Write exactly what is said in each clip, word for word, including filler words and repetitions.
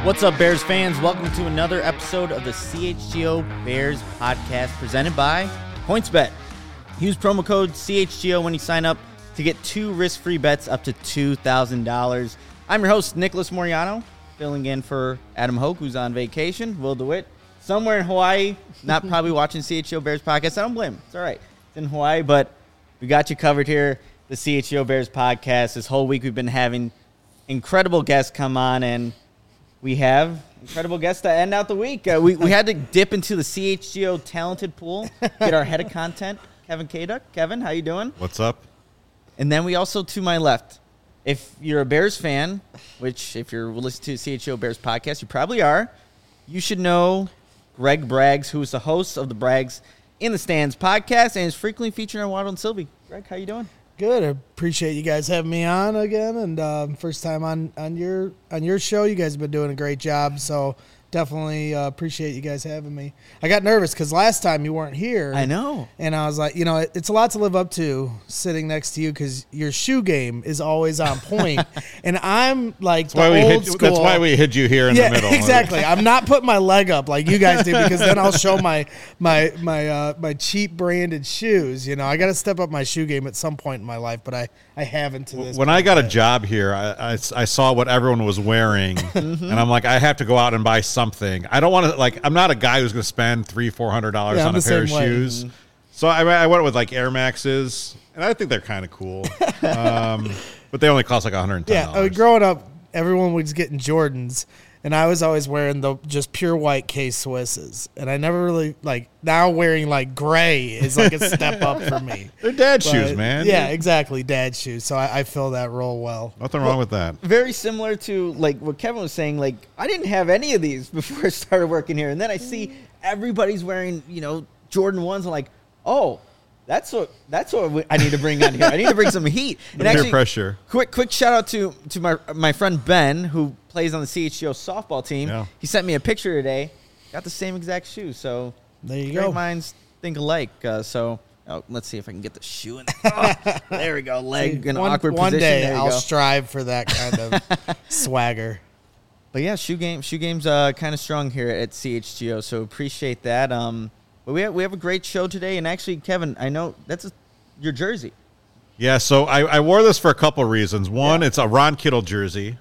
What's up, Bears fans? Welcome to another episode of the C H G O Bears podcast presented by PointsBet. Use promo code C H G O when you sign up to get two risk-free bets up to two thousand dollars. I'm your host, Nicholas Moriano, filling in for Adam Hoke, who's on vacation. Will DeWitt, somewhere in Hawaii, not probably watching C H G O Bears podcast. I don't blame him. It's all right. It's in Hawaii, but we got you covered here, the C H G O Bears podcast. This whole week we've been having incredible guests come on, and we have incredible guests to end out the week. Uh, we, we had to dip into the C H G O talented pool, get our head of content, Kevin Kaduk. Kevin, how you doing? What's up? And then we also, to my left, if you're a Bears fan, which if you're listening to the C H G O Bears podcast, you probably are, you should know Greg Braggs, who is the host of the Braggs in the Stands podcast and is frequently featured on Waddle and Sylvie. Greg, how you doing? Good. I appreciate you guys having me on again, and um, first time on, on your on your show. You guys have been doing a great job, so definitely uh, appreciate you guys having me. I got nervous because last time you weren't here. I know. And I was like, you know, it, it's a lot to live up to sitting next to you because your shoe game is always on point. And I'm like That's the why we old hid, school. That's why we hid you here in yeah, the middle. Exactly. I'm not putting my leg up like you guys do because then I'll show my my my uh, my cheap branded shoes. You know, I got to step up my shoe game at some point in my life, but I, I haven't to this When point I got yet. a job here, I, I, I saw what everyone was wearing, and I'm like, I have to go out and buy something. I don't want to, like, I'm not a guy who's going to spend three, four hundred dollars Yeah, on I'm a the pair of same way. shoes. So I, I went with like Air Maxes, and I think they're kind of cool, um, but they only cost like one hundred ten Yeah, dollars. I mean, growing up, everyone was getting Jordans, and I was always wearing the just pure white K Swisses, and I never really like. Now wearing like gray is like a step up for me. They're dad But, shoes, man. Yeah, exactly, dad shoes. So I, I fill that role well. Nothing wrong with that. Very similar to like what Kevin was saying. Like, I didn't have any of these before I started working here, and then I see everybody's wearing, you know, Jordan ones. I'm like, oh, that's what that's what we, I need to bring on here. I need to bring some heat. The peer pressure. Quick, quick shout out to to my my friend Ben, who plays on the C H G O softball team. Yeah. He sent me a picture today. Got the same exact shoes. So There you great go. minds think alike. Uh, so. Oh, let's see if I can get the shoe in there. Oh, there we go. Leg in an one, awkward one position. day There you I'll go. strive for that kind of swagger. But yeah, shoe game, shoe game's uh, kind of strong here at C H G O, so appreciate that. Um, but we have, we have a great show today, and actually, Kevin, I know that's a, your jersey. Yeah, so I, I wore this for a couple reasons. One, Yeah. it's a Ron Kittle jersey.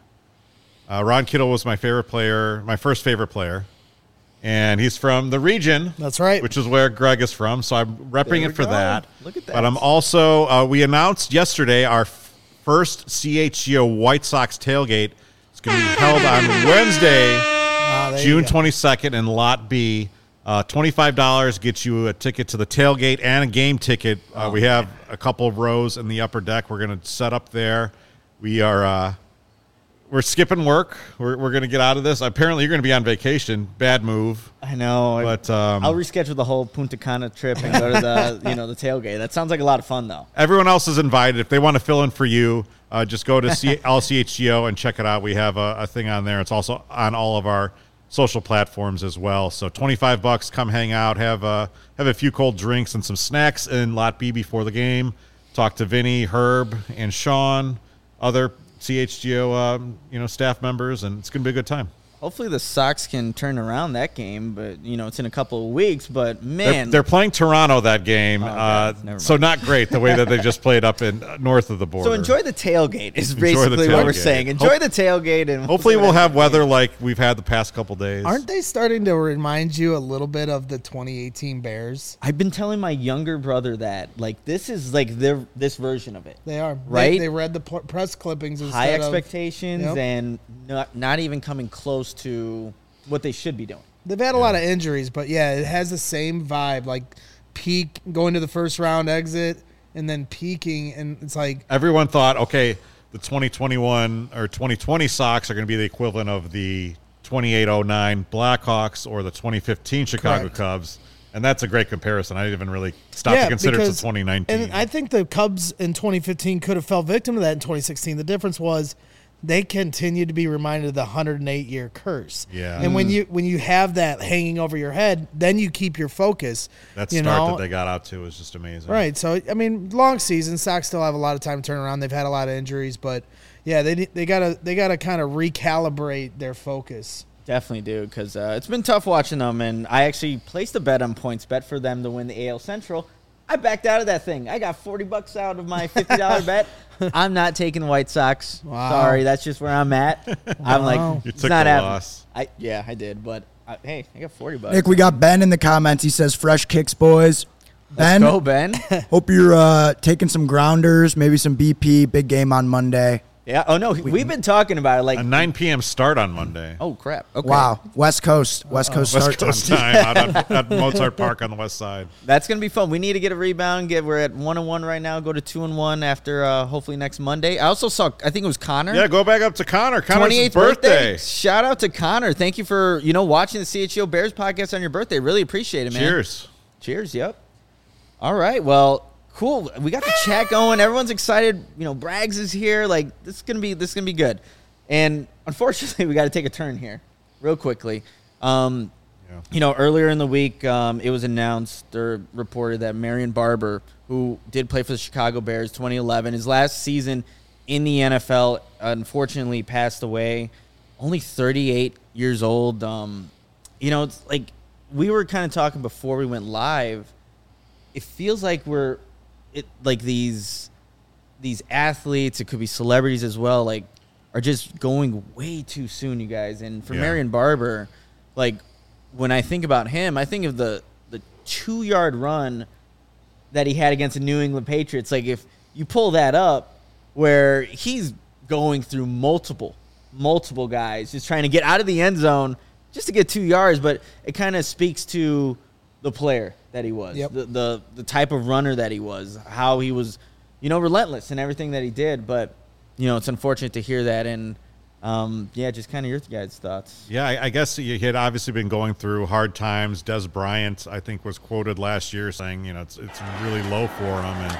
Uh, Ron Kittle was my favorite player, my first favorite player. And he's from the region. That's right. Which is where Greg is from. So I'm repping There we it for go. that. Look at that. But I'm also, uh, we announced yesterday our f- first C H G O White Sox tailgate. It's going to be held on Wednesday, Ah, there you June go. twenty-second in Lot B. Uh, twenty-five dollars gets you a ticket to the tailgate and a game ticket. Uh, Oh, we have a couple of rows in the upper deck. We're going to set up there. We are uh, we're skipping work. We're we're going to get out of this. Apparently, you're going to be on vacation. Bad move. I know, But um, I'll reschedule the whole Punta Cana trip and go to the you know the tailgate. That sounds like a lot of fun, though. everyone else is invited. If they want to fill in for you, uh, just go to C- L C H G O and check it out. We have a, a thing on there. It's also on all of our social platforms as well. So twenty-five bucks, come hang out, have a, have a few cold drinks and some snacks in Lot B before the game. Talk to Vinny, Herb, and Sean, other C H G O um, you know, staff members, and it's going to be a good time. Hopefully, the Sox can turn around that game, but you know it's in a couple of weeks. But They're, man, they're playing Toronto that game, Oh, uh, God. Never so mind. not great the way that they just played up in uh, north of the border. so enjoy the tailgate is Enjoy the basically what we're tailgate. saying. Enjoy Hope- the tailgate, and Hopefully see what we'll have happens. weather like we've had the past couple days. Aren't they starting to remind you a little bit of the twenty eighteen Bears? I've been telling my younger brother that like this is like their this version of it. They are. Right? They, they read the pl- press clippings instead High of- expectations Yep. and not, not even coming close to what they should be doing. They've had a lot of injuries, but yeah, it has the same vibe, like peak, going to the first round exit, and then peaking, and it's like, Everyone thought, okay, the twenty twenty-one or twenty twenty Sox are going to be the equivalent of the twenty-eight oh nine Blackhawks or the twenty fifteen Chicago Correct. Cubs. And that's a great comparison. I didn't even really stop yeah, to consider because, it's a twenty nineteen. And I think the Cubs in twenty fifteen could have fell victim to that in twenty sixteen. The difference was they continue to be reminded of the one hundred eight year curse. Yeah. And when you when you have that hanging over your head, then you keep your focus. that you start know? that they got out to was just amazing. Right. So I mean, long season. Sox still have a lot of time to turn around. They've had a lot of injuries, but yeah, they they gotta they gotta kind of recalibrate their focus. Definitely do, because uh, it's been tough watching them, and I actually placed a bet on points bet for them to win the A L Central. I backed out of that thing. I got forty bucks out of my fifty dollars bet. I'm not taking the White Sox. Wow. Sorry, that's just where I'm at. I'm Wow. like, You it's took not the happening. loss. I, yeah, I did, but I, hey, I got forty bucks. Nick, we got Ben in the comments. He says, fresh kicks, boys. Let's Ben, go, Ben. hope you're uh, taking some grounders, maybe some B P, big game on Monday. Yeah. Oh no, we've been talking about it. Like, A nine p.m. start on Monday. oh crap. Okay. Wow. West Coast. West Coast start West Coast time. time out on, at Mozart Park on the west side. That's gonna be fun. We need to get a rebound. Get we're at one and one right now. Go to two and one after uh, hopefully next Monday. I also saw. I think it was Connor. Yeah, go back up to Connor. Connor's his twenty-eighth birthday. Shout out to Connor. Thank you for you know watching the C H G O Bears podcast on your birthday. Really appreciate it, man. Cheers. Cheers. Yep. All right. Well, cool. We got the chat going. Everyone's excited. You know, Braggs is here. Like this is gonna be this is gonna be good. And unfortunately, we got to take a turn here, real quickly. Um, Yeah. You know, earlier in the week, um, it was announced or reported that Marion Barber, who did play for the Chicago Bears twenty eleven, his last season in the N F L, unfortunately passed away. Only thirty-eight years old. Um, you know, it's like we were kind of talking before we went live. It feels like we're it like these these athletes, it could be celebrities as well, like are just going way too soon, you guys. And for Yeah. Marion Barber, like when I think about him, I think of the the two yard run that he had against the New England Patriots. Like if you pull that up, where he's going through multiple multiple guys, just trying to get out of the end zone just to get two yards, but it kind of speaks to the player that he was, Yep. the, the the type of runner that he was, how he was, you know, relentless in everything that he did. But you know, it's unfortunate to hear that, and um, yeah, just kind of your guys' thoughts. Yeah, I, I guess he had obviously been going through hard times. Des Bryant, I think, was quoted last year saying, you know, it's it's really low for him and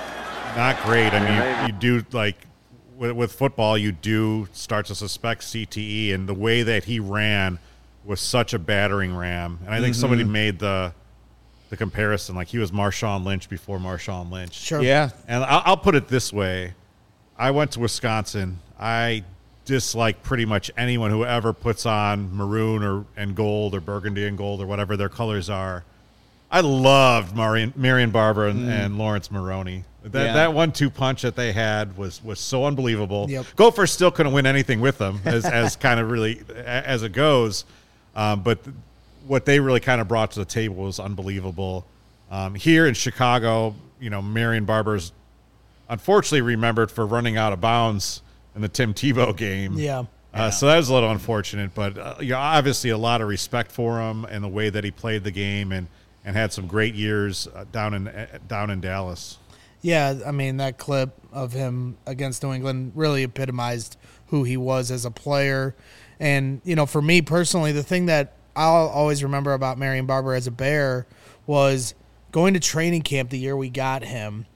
not great. I mean, you, you do, like, with, with football, you do start to suspect C T E, and the way that he ran was such a battering ram. And I think somebody made the the comparison, like he was Marshawn Lynch before Marshawn Lynch. Sure. Yeah, And I'll, I'll put it this way. I went to Wisconsin. I dislike pretty much anyone who ever puts on maroon or and gold or burgundy and gold or whatever their colors are. I loved Marion, Marion Barber and, and Lawrence Maroney. That Yeah. that one two punch that they had was was so unbelievable. Yep. Gopher still couldn't win anything with them as as kind of really a- as it goes. Um, but th- what they really kind of brought to the table was unbelievable. Um, here in Chicago, you know, Marion Barber's unfortunately remembered for running out of bounds in the Tim Tebow game. Yeah. Uh, so that was a little unfortunate, but uh, you know, obviously a lot of respect for him and the way that he played the game, and, and had some great years uh, down in uh, down in Dallas. Yeah, I mean, that clip of him against New England really epitomized who he was as a player. And, you know, for me personally, the thing that I'll always remember about Marion Barber as a Bear was going to training camp the year we got him.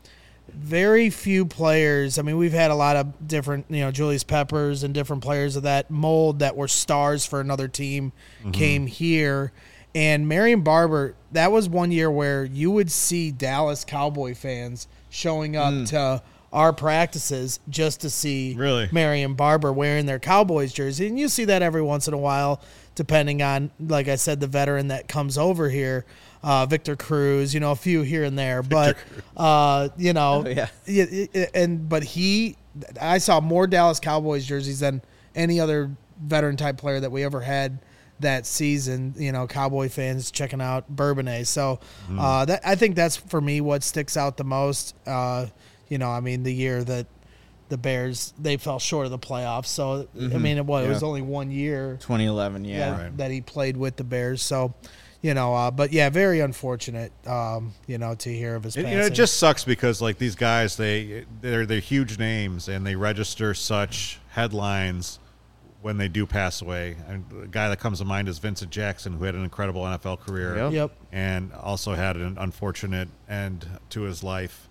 Very few players, I mean, we've had a lot of different, you know, Julius Peppers and different players of that mold that were stars for another team came here. And Marion Barber, that was one year where you would see Dallas Cowboy fans showing up to our practices just to see Really? Marion Barber wearing their Cowboys jersey. And you see that every once in a while, depending on, like I said, the veteran that comes over here, uh, Victor Cruz, you know, a few here and there. But, uh, you know, Oh, yeah. y- y- and but he, I saw more Dallas Cowboys jerseys than any other veteran type player that we ever had that season. You know, Cowboy fans checking out Bourbonnais. So uh, that I think that's for me what sticks out the most. Uh, you know, I mean, the year that the Bears, they fell short of the playoffs. So I mean, it was, it was Yeah. only one year twenty eleven. Yeah. that, Right. that he played with the Bears. So, you know, uh, but yeah, very unfortunate. Um, you know, to hear of his And, passing. you know, it just sucks because like these guys, they they're they're huge names and they register such headlines when they do pass away. And the guy that comes to mind is Vincent Jackson, who had an incredible N F L career. Yep. Yep. And also had an unfortunate end to his life.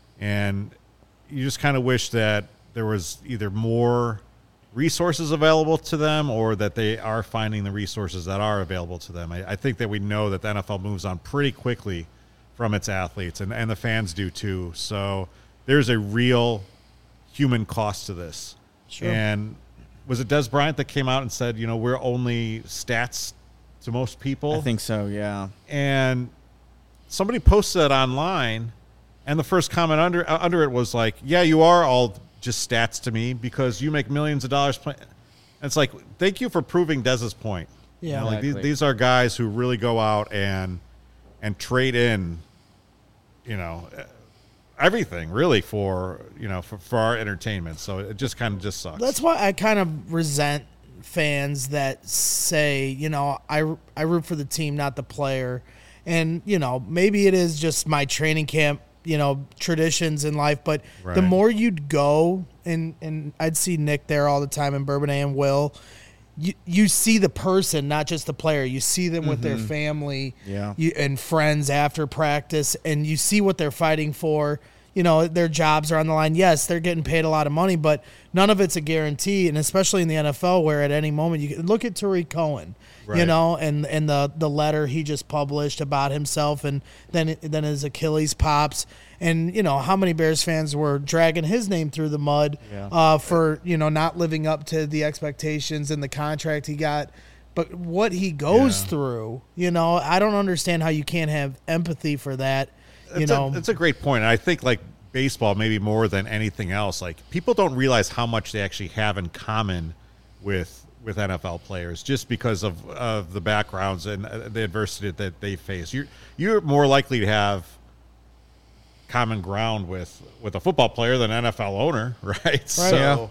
And you just kind of wish that there was either more resources available to them or that they are finding the resources that are available to them. I, I think that we know that the N F L moves on pretty quickly from its athletes, and, and the fans do too. So there's a real human cost to this. Sure. And was it Des Bryant that came out and said, you know, we're only stats to most people? I think so, yeah. And somebody posted that online, and the first comment under uh, under it was like, yeah, you are all just stats to me because you make millions of dollars playing. And it's like, thank you for proving Dez's point. Yeah. You know, like Exactly. these, these are guys who really go out and and trade in, you know, everything really for, you know, for, for our entertainment. So it just kind of just sucks. That's why I kind of resent fans that say, you know, I, I root for the team, not the player. And, you know, maybe it is just my training camp, you know, traditions in life. But Right. the more you'd go, and, and I'd see Nick there all the time in Bourbonnais and Will, you, you see the person, not just the player. You see them with their family Yeah. you, and friends after practice, and you see what they're fighting for. You know, their jobs are on the line. Yes, they're getting paid a lot of money, but none of it's a guarantee, and especially in the N F L where at any moment you can look at Tariq Cohen, you Right. know, and, and the, the letter he just published about himself, and then then his Achilles pops. And, you know, how many Bears fans were dragging his name through the mud Yeah. uh, for, you know, not living up to the expectations and the contract he got. But what he goes Yeah. through, you know, I don't understand how you can't have empathy for that. You It's know, a, it's a great point. And I think like baseball, maybe more than anything else, like people don't realize how much they actually have in common with with N F L players just because of, of the backgrounds and uh, the adversity that they face. You're you're more likely to have common ground with with a football player than an N F L owner, right? So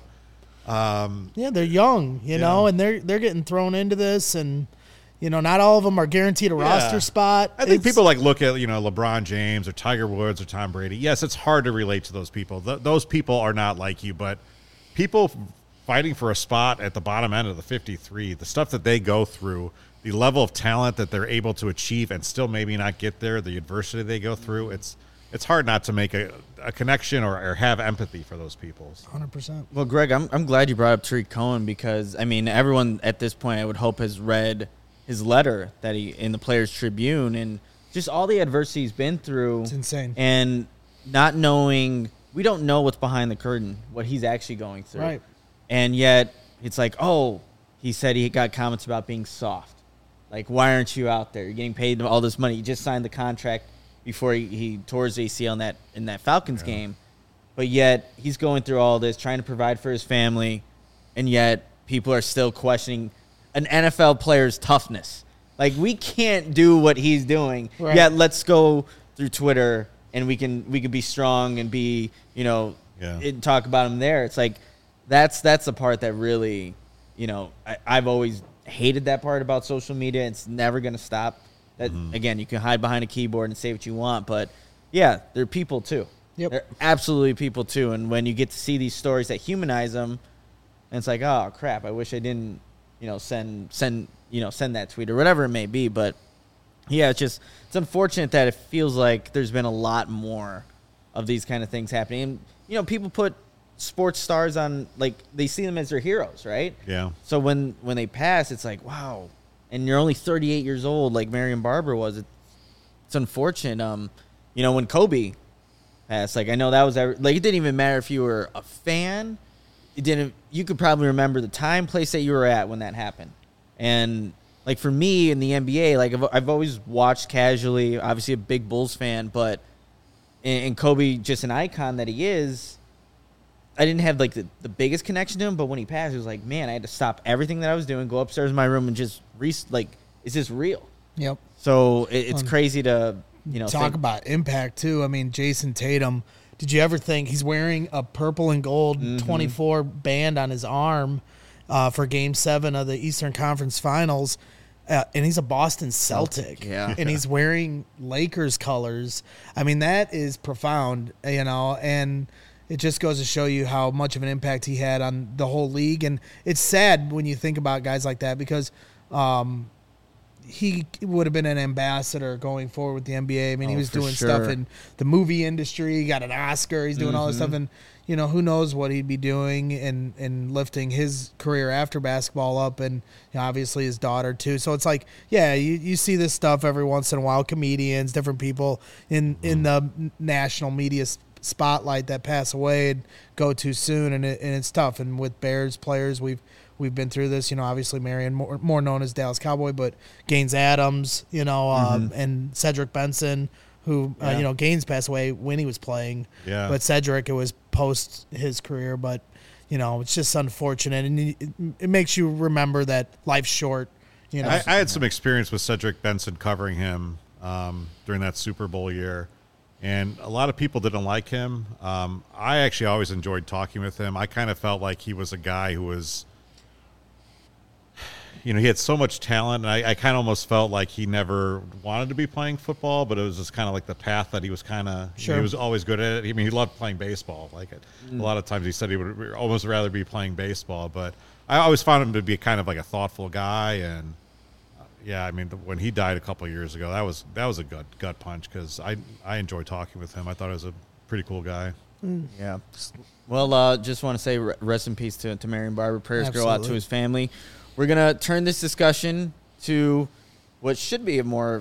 yeah, they're young, you know, and they're they're getting thrown into this, and you know, not all of them are guaranteed a roster spot. I think It's- people like look at, you know, LeBron James or Tiger Woods or Tom Brady. Yes, it's hard to relate to those people. Th- those people are not like you, but people fighting for a spot at the bottom end of the fifty-three, the stuff that they go through, the level of talent that they're able to achieve and still maybe not get there, the adversity they go through, it's it's hard not to make a, a connection or, or have empathy for those people. one hundred percent. Well, Greg, I'm I'm glad you brought up Tariq Cohen because I mean everyone at this point I would hope has read his letter that he in the Players Tribune and just all the adversity he's been through. It's insane. And not knowing, we don't know what's behind the curtain, what he's actually going through. Right. And yet it's like, oh, he said he got comments about being soft. Like, why aren't you out there? You're getting paid all this money. You just signed the contract before he, he tore his A C L in that in that Falcons Yeah. game. But yet he's going through all this, trying to provide for his family, and yet people are still questioning an N F L player's toughness. Like, we can't do what he's doing. Right. Yet let's go through Twitter and we can we can be strong and be, you know, Yeah. and talk about him there. It's like that's that's the part that really, you know, I, I've always hated that part about social media. It's never going to stop. That again, you can hide behind a keyboard and say what you want, but yeah, they're people too. Yep. They're absolutely people too. And when you get to see these stories that humanize them, and it's like, oh crap, I wish I didn't, you know, send send you know send that tweet or whatever it may be. But yeah, it's just it's unfortunate that it feels like there's been a lot more of these kind of things happening. And you know, people put sports stars on, like, they see them as their heroes, right? Yeah. So when when they pass, it's like, wow. And you're only thirty-eight years old, like Marion Barber was. It, it's unfortunate. Um, you know, when Kobe passed, like, I know that was ever, like, it didn't even matter if you were a fan. It didn't. You could probably remember the time, place that you were at when that happened. And like for me in the N B A, like I've, I've always watched casually. Obviously, a big Bulls fan, but and, and Kobe, just an icon that he is. I didn't have like the, the biggest connection to him, but when he passed, it was like, man, I had to stop everything that I was doing, go upstairs in my room, and just re- like, is this real? Yep. So it, it's Um, crazy to you know Talk think, about impact too. I mean, Jason Tatum. Did you ever think he's wearing a purple and gold Mm-hmm. twenty-four band on his arm uh, for Game Seven of the Eastern Conference Finals, uh, and he's a Boston Celtic, yeah. and he's wearing Lakers colors. I mean, that is profound, you know, and it just goes to show you how much of an impact he had on the whole league. And it's sad when you think about guys like that because. Um, he would have been an ambassador going forward with the N B A. I mean, he Oh, was for doing sure. stuff in the movie industry. He got an Oscar. He's doing all this stuff. And, you know, who knows what he'd be doing and, and lifting his career after basketball up. And you know, obviously his daughter, too. So it's like, yeah, you, you see this stuff every once in a while. Comedians, different people in, in the national media s- spotlight that pass away and go too soon. And, it, and it's tough. And with Bears players, we've we've been through this. You know, obviously Marion, more, more known as Dallas Cowboy, but Gaines Adams, you know, um, Mm-hmm. and Cedric Benson, who, uh, Yeah. you know, Gaines passed away when he was playing. Yeah. But Cedric, it was post his career. But, you know, it's just unfortunate. And it, it makes you remember that life's short, you know. I, I had some experience with Cedric Benson covering him um, during that Super Bowl year, and a lot of people didn't like him. Um, I actually always enjoyed talking with him. I kind of felt like he was a guy who was, you know, he had so much talent, and I, I kind of almost felt like he never wanted to be playing football, but it was just kind of like the path that he was kind of, Sure. he was always good at it. I mean, he loved playing baseball. Like it, a lot of times he said he would almost rather be playing baseball, but I always found him to be kind of like a thoughtful guy. And uh, yeah, I mean, when he died a couple of years ago, that was that was a gut gut punch, because I I enjoyed talking with him. I thought he was a pretty cool guy. Yeah. Well, uh, just want to say re- rest in peace to, to Marion Barber. Prayers go out to Absolutely. his family. We're going to turn this discussion to what should be a more,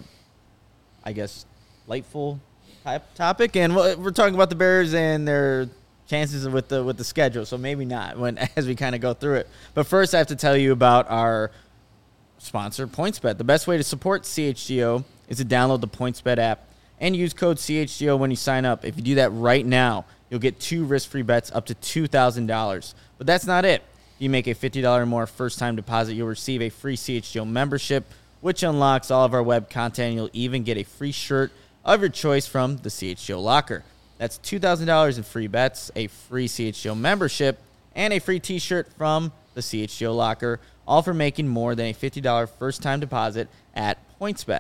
I guess, lightful type topic. And we're we're talking about the Bears and their chances with the with the schedule. So maybe not when as we kind of go through it. But first, I have to tell you about our sponsor, PointsBet. The best way to support C H G O is to download the PointsBet app and use code C H G O when you sign up. If you do that right now, you'll get two risk-free bets up to two thousand dollars. But that's not it. If you make a fifty dollars or more first-time deposit, you'll receive a free C H G O membership, which unlocks all of our web content. You'll even get a free shirt of your choice from the C H G O Locker. That's two thousand dollars in free bets, a free C H G O membership, and a free T-shirt from the C H G O Locker, all for making more than a fifty dollars first-time deposit at PointsBet.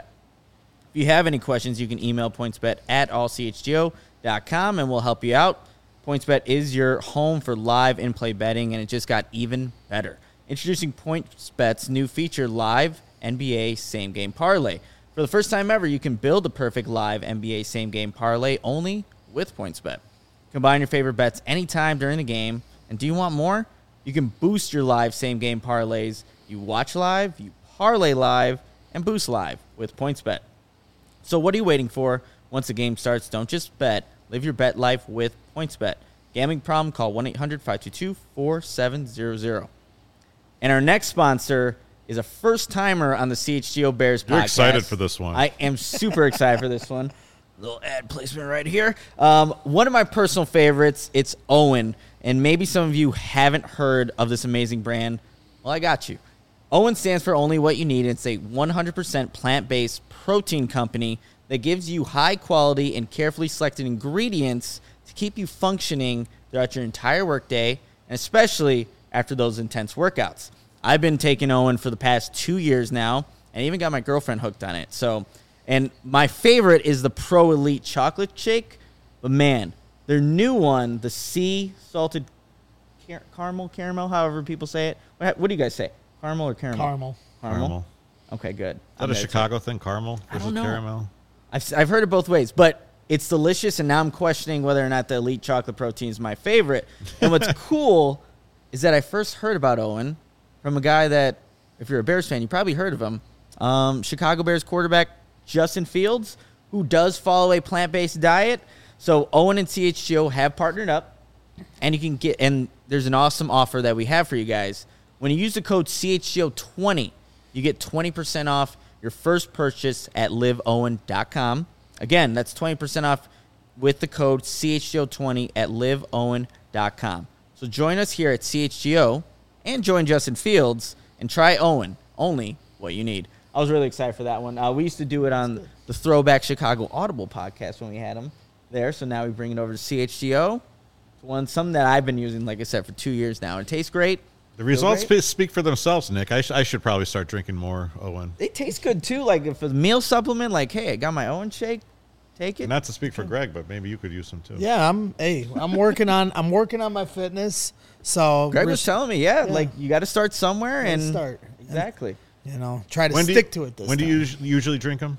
If you have any questions, you can email pointsbet at all c h g o dot com, and we'll help you out. PointsBet is your home for live in-play betting, and it just got even better. Introducing PointsBet's new feature, Live N B A Same Game Parlay. For the first time ever, you can build the perfect live N B A Same Game Parlay only with PointsBet. Combine your favorite bets anytime during the game, and do you want more? You can boost your live Same Game Parlays. You watch live, you parlay live, and boost live with PointsBet. So what are you waiting for? Once the game starts, don't just bet. Live your bet life with PointsBet. Gambling problem? Call one eight hundred five two two four seven zero zero. And our next sponsor is a first-timer on the C H G O Bears podcast. You're excited for this one. I am super excited for this one. Little ad placement right here. Um, one of my personal favorites, it's Owen. And maybe some of you haven't heard of this amazing brand. Well, I got you. Owen stands for Only What You Need. It's a one hundred percent plant-based protein company that gives you high-quality and carefully selected ingredients to keep you functioning throughout your entire workday, and especially after those intense workouts. I've been taking Owen for the past two years now, and I even got my girlfriend hooked on it. So, and my favorite is the Pro Elite Chocolate Shake. But man, their new one, the Sea Salted car- Caramel, Caramel, however people say it. What, what do you guys say? Caramel or caramel? Caramel. Caramel. Caramel. Okay, good. Is I'm that a gonna Chicago thing, caramel I versus don't know. caramel? I've, I've heard it both ways, but it's delicious, and now I'm questioning whether or not the Elite Chocolate Protein is my favorite. And what's cool is that I first heard about Owen from a guy that, if you're a Bears fan, you probably heard of him, um, Chicago Bears quarterback Justin Fields, who does follow a plant-based diet. So Owen and C H G O have partnered up, and you can get, and there's an awesome offer that we have for you guys. When you use the code C H G O twenty, you get twenty percent off your first purchase at live owen dot com. Again, that's twenty percent off with the code C H G O twenty at live owen dot com. So join us here at C H G O and join Justin Fields and try Owen, only what you need. I was really excited for that one. Uh, we used to do it on the Throwback Chicago Audible podcast when we had him there. So now we bring it over to C H G O. It's one, something that I've been using, like I said, for two years now. It tastes great. The results great? spe- speak for themselves, Nick. I, sh- I should probably start drinking more Owen. They taste good, too. Like, if a meal supplement, like, hey, I got my Owen shake, take it. Not to speak for Greg, but maybe you could use some too. Yeah, I'm. Hey, I'm working on. I'm working on my fitness. So Greg we're- was telling me, yeah, Yeah. like, you got to start somewhere. Gotta and start. Exactly. you know, try to When do stick you, to it this When time. do you us- usually drink them?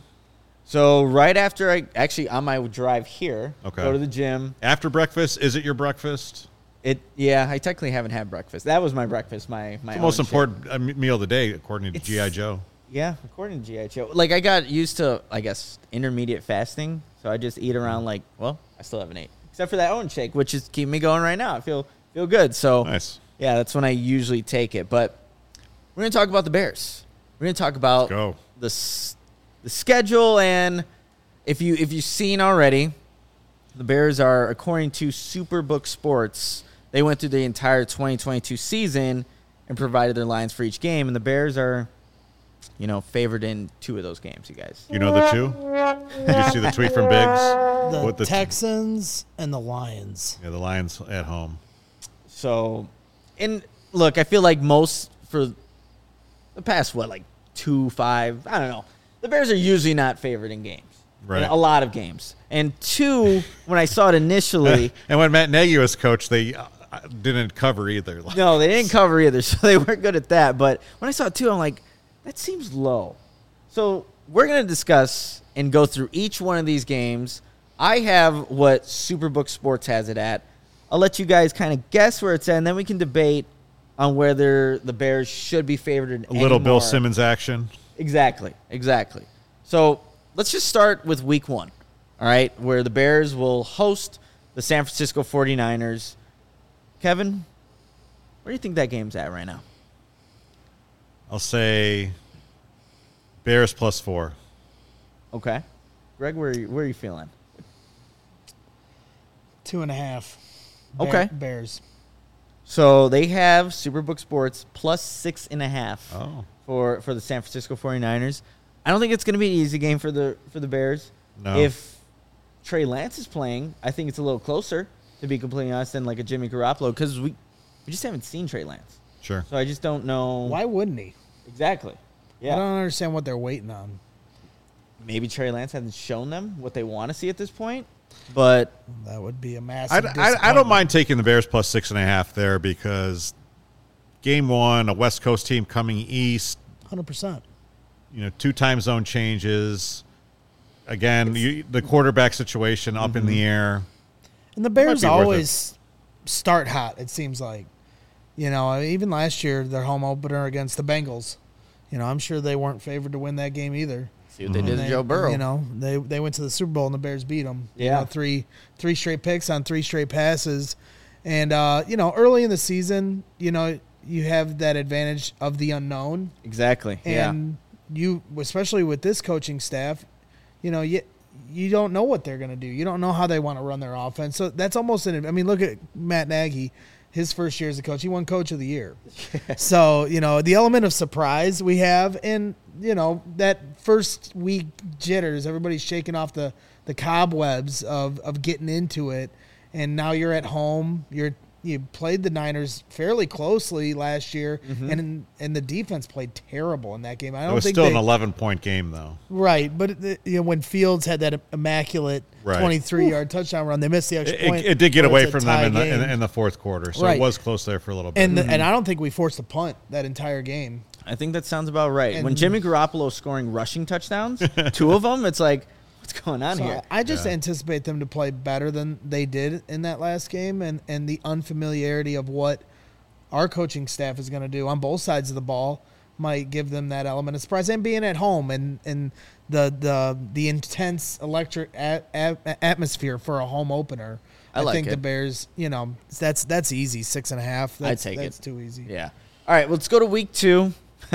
So right after I, actually, on my drive here, Okay. go to the gym. After breakfast? Is it your breakfast? It Yeah, I technically haven't had breakfast. That was my breakfast, my, my The most Owen shake. important uh, me- meal of the day, according to It's- G I. Joe. Yeah, according to G I Joe. Like, I got used to, I guess, intermediate fasting. So I just eat around, like, well, I still haven't ate. Except for that Owen shake, which is keeping me going right now. I feel feel good. So, Nice. yeah, that's when I usually take it. But we're going to talk about the Bears. We're going to talk about Go. the s- the schedule, and if you if you've seen already, the Bears are, according to Superbook Sports, they went through the entire twenty twenty-two season and provided their lines for each game, and the Bears are, you know, favored in two of those games, you guys. You know the two? Did you see the tweet from Biggs? The, With the Texans and the Lions. Yeah, the Lions at home. So, and look, I feel like most for the past, what, like two, five, I don't know. The Bears are usually not favored in games. Right. In a lot of games. And two, when I saw it initially. And when Matt Nagy was coach, they uh, didn't cover either. No, they didn't cover either, so they weren't good at that. But when I saw it too, I'm like, that seems low. So we're going to discuss and go through each one of these games. I have what Superbook Sports has it at. I'll let you guys kind of guess where it's at, and then we can debate on whether the Bears should be favored in A little Bill more. Simmons action. Exactly, exactly. So let's just start with week one, all right, where the Bears will host the San Francisco forty-niners. Kevin, where do you think that game's at right now? I'll say Bears plus four. Okay. Greg, where are you, where are you feeling? Two and a half. Okay. Bears. So they have Superbook Sports plus six and a half Oh. for, for the San Francisco forty-niners. I don't think it's going to be an easy game for the for the Bears. No. If Trey Lance is playing, I think it's a little closer, to be completely honest, than like a Jimmy Garoppolo, because we, we just haven't seen Trey Lance. Sure. So I just don't know. Why wouldn't he? Exactly. I Yeah. don't understand what they're waiting on. Maybe Trey Lance hasn't shown them what they want to see at this point, but That would be a I, massive I, I don't disappointment. mind taking the Bears plus six and a half there because game one, a West Coast team coming east, one hundred percent. you know, two time zone changes. Again, you, the quarterback situation up in the air. And the Bears be worth always start hot, it seems like. You know, even last year, their home opener against the Bengals. You know, I'm sure they weren't favored to win that game either. see what they did to They- Joe Burrow. You know, they they went to the Super Bowl and the Bears beat them. You Yeah. know, three three straight picks on three straight passes, and uh, you know, early in the season, you know, you have that advantage of the unknown, Exactly. Yeah. and you, especially with this coaching staff, you know, you you don't know what they're going to do. You don't know how they want to run their offense. So that's almost an. I mean, look at Matt Nagy. His first year as a coach, he won Coach of the Year. So, you know, the element of surprise we have, and, you know, that first week jitters, everybody's shaking off the, the cobwebs of, of getting into it. And now you're at home. You're you played the Niners fairly closely last year, and and the defense played terrible in that game. I don't It was think still they, an eleven point game, though. right, but it, you know, when Fields had that immaculate Right. twenty-three yard touchdown run, they missed the extra It, point. it, it did get where away it's a from them tie in the, in, game. in the fourth quarter, so Right. it was close there for a little bit. And the, and I don't think we forced a punt that entire game. I think that sounds about right. when And- Jimmy Garoppolo is scoring rushing touchdowns, two of them, it's like, what's going on So here? I just Yeah. anticipate them to play better than they did in that last game, and, and the unfamiliarity of what our coaching staff is going to do on both sides of the ball might give them that element of surprise. And being at home and, and the the the intense electric a, a, atmosphere for a home opener, I I, like think it. the Bears, you know, that's that's easy, six and a half. That's, take it. That's too easy. Yeah. All right, let's go to week two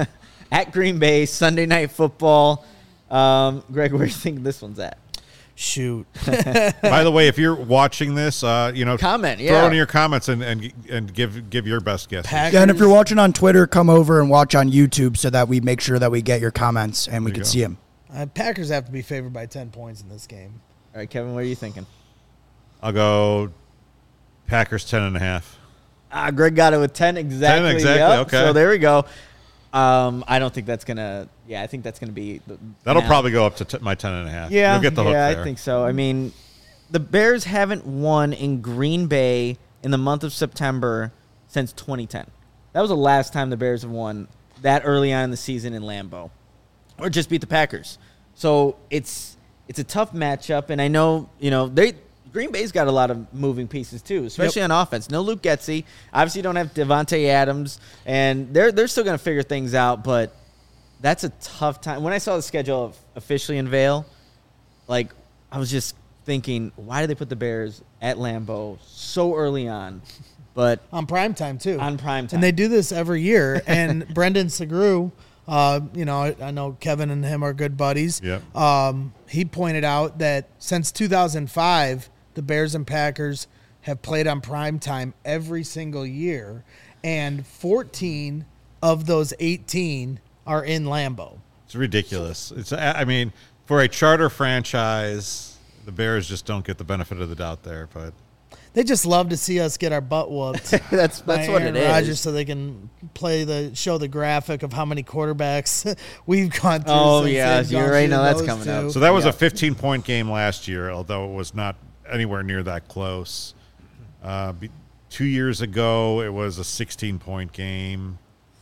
at Green Bay, Sunday Night Football. Um, Greg, where do you think this one's at? Shoot. By the way, if you're watching this, uh, you know, Comment, throw yeah. in your comments and, and and give give your best guess. Pack- Yeah, and if you're watching on Twitter, come over and watch on YouTube so that we make sure that we get your comments and we There you can go. see them. Uh, Packers have to be favored by ten points in this game. All right, Kevin, what are you thinking? I'll go Packers ten and a half. Ah, Greg got it with ten exactly. exactly, Yep. okay. So there we go. Um, I don't think that's gonna. Yeah, I think that's gonna be. The, That'll now. probably go up to t- my ten and a half. Yeah, You'll get the hook yeah, there. I think so. I mean, the Bears haven't won in Green Bay in the month of September since twenty ten. That was the last time the Bears have won that early on in the season in Lambeau, or just beat the Packers. So it's it's a tough matchup, and I know you know they Green Bay's got a lot of moving pieces too, especially on offense. No Luke Getsy, obviously you don't have Devontae Adams, and they're they're still going to figure things out, but that's a tough time. When I saw the schedule officially unveil, like I was just thinking, why did they put the Bears at Lambeau so early on? But On primetime, too. on prime time. And they do this every year. And Brendan Segru, uh, you know, I, I know Kevin and him are good buddies. Yep. Um, he pointed out that since two thousand five, the Bears and Packers have played on primetime every single year. And fourteen of those eighteen are in Lambeau. It's ridiculous. It's I mean, for a charter franchise, the Bears just don't get the benefit of the doubt there. But They just love to see us get our butt whooped. that's by that's what Aaron it Rodgers, is. so they can play the show the graphic of how many quarterbacks we've gone through. Oh, since yeah, they've you gone already through know that's those coming two. up. so that was Yeah. a fifteen-point game last year, although it was not anywhere near that close. Uh, be, two years ago, it was a sixteen-point game.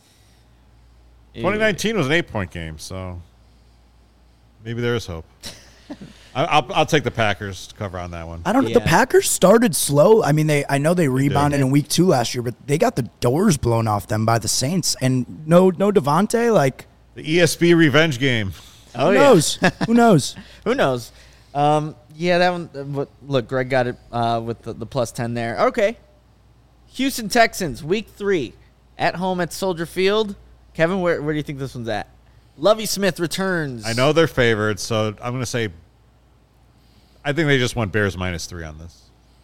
twenty nineteen was an eight-point game, so maybe there is hope. I, I'll, I'll take the Packers to cover on that one. I don't know. The Yeah. Packers started slow. I mean, they I know they rebounded in week two last year, but they got the doors blown off them by the Saints. And no no Devontae, like, The E S B revenge game. Oh, who yeah. knows? Who knows? Who knows? Um, yeah, that one. uh, what- Look, Greg got it uh, with the, the plus ten there. Okay. Houston Texans, week three, at home at Soldier Field. Kevin, where, where do you think this one's at? Lovie Smith returns. I know they're favored, so I'm going to say I think they just want Bears minus three on this.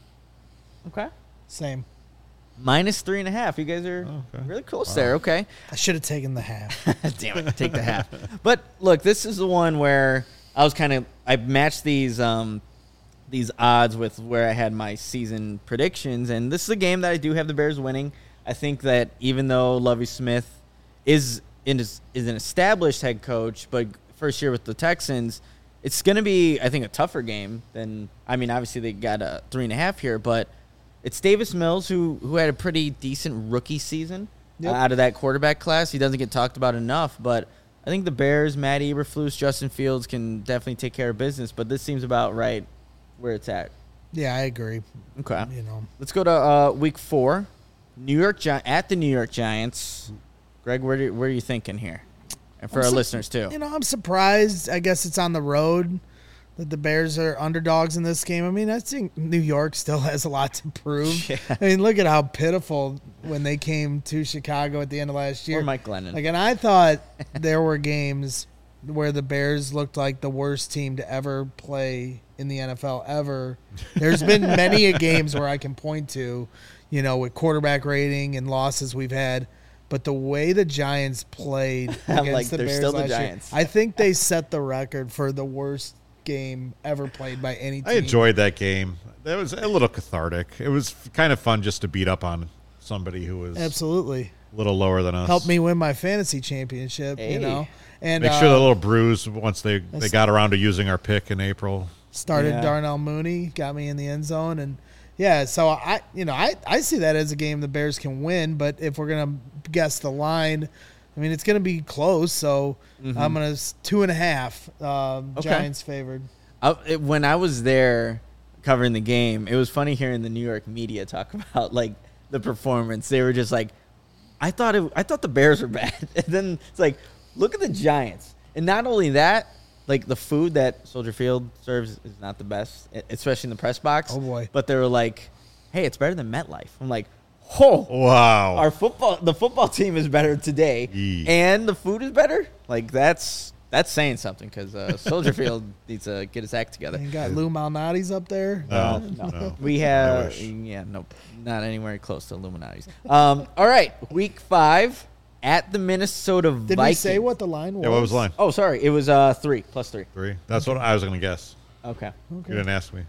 Okay. Same. Minus three and a half. You guys are Okay. really close there. Okay. I should have taken the half. Damn it, take the half. But look, this is the one where I was kind of I matched these um these odds with where I had my season predictions, and this is a game that I do have the Bears winning. I think that even though Lovie Smith is in is an established head coach, but first year with the Texans, it's going to be I think a tougher game than I mean obviously they got a three and a half here, but it's Davis Mills who who had a pretty decent rookie season. Yep. Uh, out of that quarterback class. He doesn't get talked about enough, but I think the Bears, Matt Eberflus, Justin Fields can definitely take care of business, but this seems about right where it's at. Yeah, I agree. Okay. You know, Let's go to uh, week four. New York Gi- at the New York Giants. Greg, where, do, where are you thinking here? And for I'm our su- listeners, too. You know, I'm surprised. I guess it's on the road that the Bears are underdogs in this game. I mean, I think New York still has a lot to prove. Yeah. I mean, look at how pitiful when they came to Chicago at the end of last year. Or Mike Glennon. Like, and I thought there were games where the Bears looked like the worst team to ever play in the N F L ever. There's been many a games where I can point to, you know, with quarterback rating and losses we've had. But the way the Giants played against Like, the they're Bears still the last year, Giants. I think they set the record for the worst game ever played by any team. I enjoyed that game. That was a little cathartic. It was kind of fun just to beat up on somebody who was Absolutely. a little lower than us. Helped me win my fantasy championship, Hey. you know. And Make uh, sure the little bruise once they, they that's- got around to using our pick in April. started Yeah. Darnell Mooney, got me in the end zone, and yeah, so I, you know, I, I see that as a game the Bears can win, but if we're gonna guess the line, I mean, it's gonna be close. So I'm gonna s- two and a half. Um, Okay. Giants favored. I, it, when I was there covering the game, it was funny hearing the New York media talk about like the performance. They were just like, I thought it, I thought the Bears were bad, and then it's like, look at the Giants, and not only that, like the food that Soldier Field serves is not the best, e- especially in the press box. Oh, boy. But they were like, hey, it's better than MetLife. I'm like, oh, Wow. our football, the football team is better today, Yee. and the food is better. Like that's that's saying something because uh, Soldier Field needs to get his act together. And you got Lou Malnati's up there. no, No, no. we I have wish. yeah, nope, not anywhere close to Illuminati's. Um, all right, week five at the Minnesota Did Vikings. we say what the line was? Yeah, what was the line? Oh, sorry, it was uh three plus three. Three. That's what I was going to guess. Okay, You didn't ask me.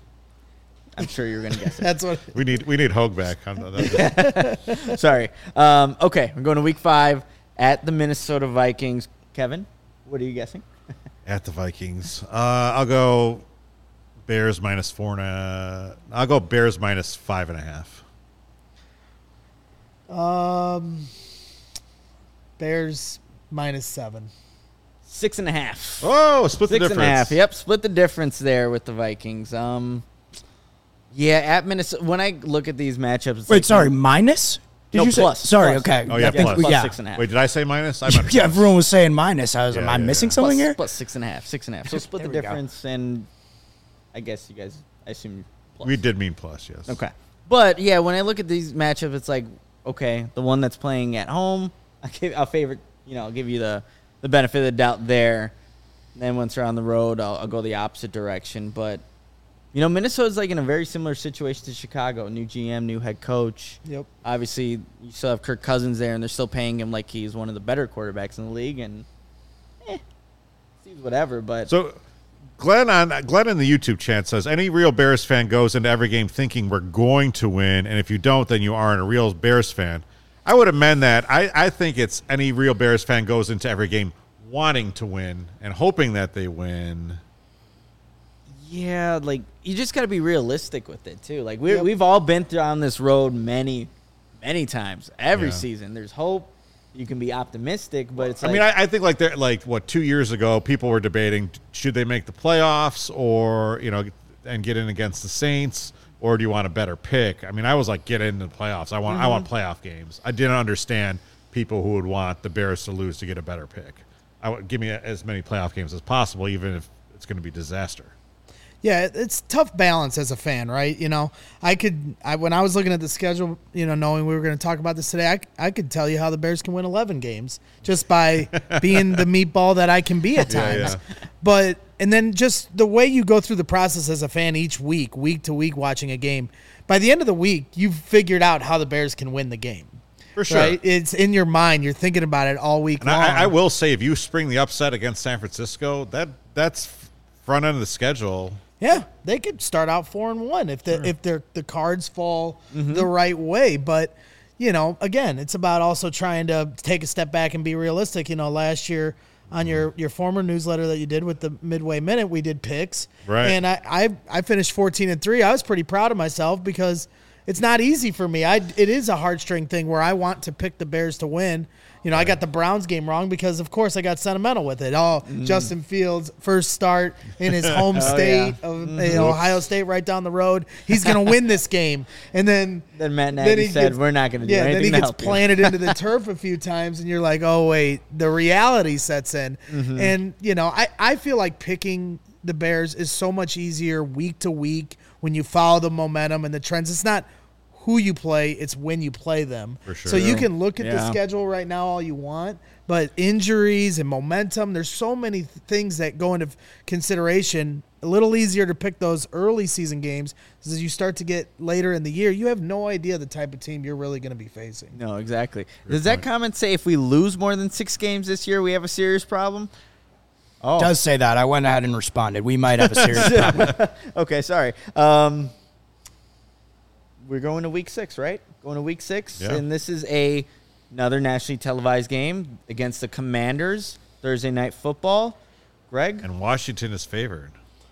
I'm sure you're gonna guess it. That's what. We need we need Hogue back. I'm not- that's- Sorry. Um, okay, we're going to week five at the Minnesota Vikings. Kevin, what are you guessing? At the Vikings. Uh, I'll go Bears minus four and a. I'll go Bears minus five and a half. Um, Bears minus seven. Six and a half. Oh, split the Six difference. and a half. Yep, split the difference there with the Vikings. Um, yeah, at Minnesota. When I look at these matchups, it's Wait, like- sorry, minus? Did No, you say? plus, Sorry, plus. okay. Oh, yeah, I think plus. we- plus yeah. six and a half. Wait, did I say minus? I meant Yeah, everyone was saying minus. I was Yeah, am I yeah, missing yeah. something Plus- here? plus six and a half, six and a half. So split the There we go. difference, and I guess you guys I assume plus. We did mean plus, yes. Okay. But, yeah, when I look at these matchups, it's like, okay, the one that's playing at home, I give, I'll favorite, you know, I'll give you the, the benefit of the doubt there. And then once they're on the road, I'll, I'll go the opposite direction. But, you know, Minnesota's like in a very similar situation to Chicago. New G M, new head coach. Yep. Obviously, you still have Kirk Cousins there, and they're still paying him like he's one of the better quarterbacks in the league. And, eh, seems whatever. But So, Glenn on Glenn in the YouTube chat says, any real Bears fan goes into every game thinking we're going to win, and if you don't, then you aren't a real Bears fan. I would amend that. I, I think it's any real Bears fan goes into every game wanting to win and hoping that they win. yeah, like you just got to be realistic with it too. Like we Yep. we've all been down this road many, many times. Every Yeah. season, there's hope. You can be optimistic, but it's. I Like, mean, I, I think like they're like what two years ago, people were debating should they make the playoffs or you know and get in against the Saints, or do you want a better pick? I mean, I was like, get into the playoffs. I want I want playoff games. I didn't understand people who would want the Bears to lose to get a better pick. I would give me as many playoff games as possible, even if it's going to be disaster. Yeah, it's tough balance as a fan, right? You know, I could, I when I was looking at the schedule, you know, knowing we were going to talk about this today, I, I could tell you how the Bears can win eleven games just by being the meatball that I can be at Yeah, times. yeah. But, and then just the way you go through the process as a fan each week, week to week, watching a game, by the end of the week, you've figured out how the Bears can win the game. For sure. Right? It's in your mind. You're thinking about it all week And long. I, I will say, if you spring the upset against San Francisco, that that's front end of the schedule. Yeah, they could start out four and one if the if their the cards fall the right way. But you know, again, it's about also trying to take a step back and be realistic. You know, last year on your, your former newsletter that you did with the Midway Minute, we did picks, Right. And I, I I finished fourteen and three. I was pretty proud of myself because it's not easy for me. I it is a heartstring thing where I want to pick the Bears to win. You know, I got the Browns game wrong because, of course, I got sentimental with it. Oh, Justin Fields' first start in his home state yeah. of you know, Ohio State, right down the road. He's going to win this game, and then Then Matt Nagy he said, gets- "We're not going to do yeah, then anything he to gets help you." planted into the turf a few times, and you're like, oh wait, the reality sets in. Mm-hmm. And you know, I I feel like picking the Bears is so much easier week to week when you follow the momentum and the trends. It's not who you play, it's when you play them. For sure. So you can look at the Yeah. schedule right now all you want, but injuries and momentum, there's so many th- things that go into consideration. A little easier to pick those early season games because as you start to get later in the year, you have no idea the type of team you're really going to be facing. No, exactly. Does that comment say if we lose more than six games this year, we have a serious problem? Oh, Does say that. I went ahead and responded. We might have a serious problem. okay. Sorry. Um, we're going to week six, right? Going to week six, Yeah. and this is a another nationally televised game against the Commanders. Thursday night football. Greg, And Washington is favored.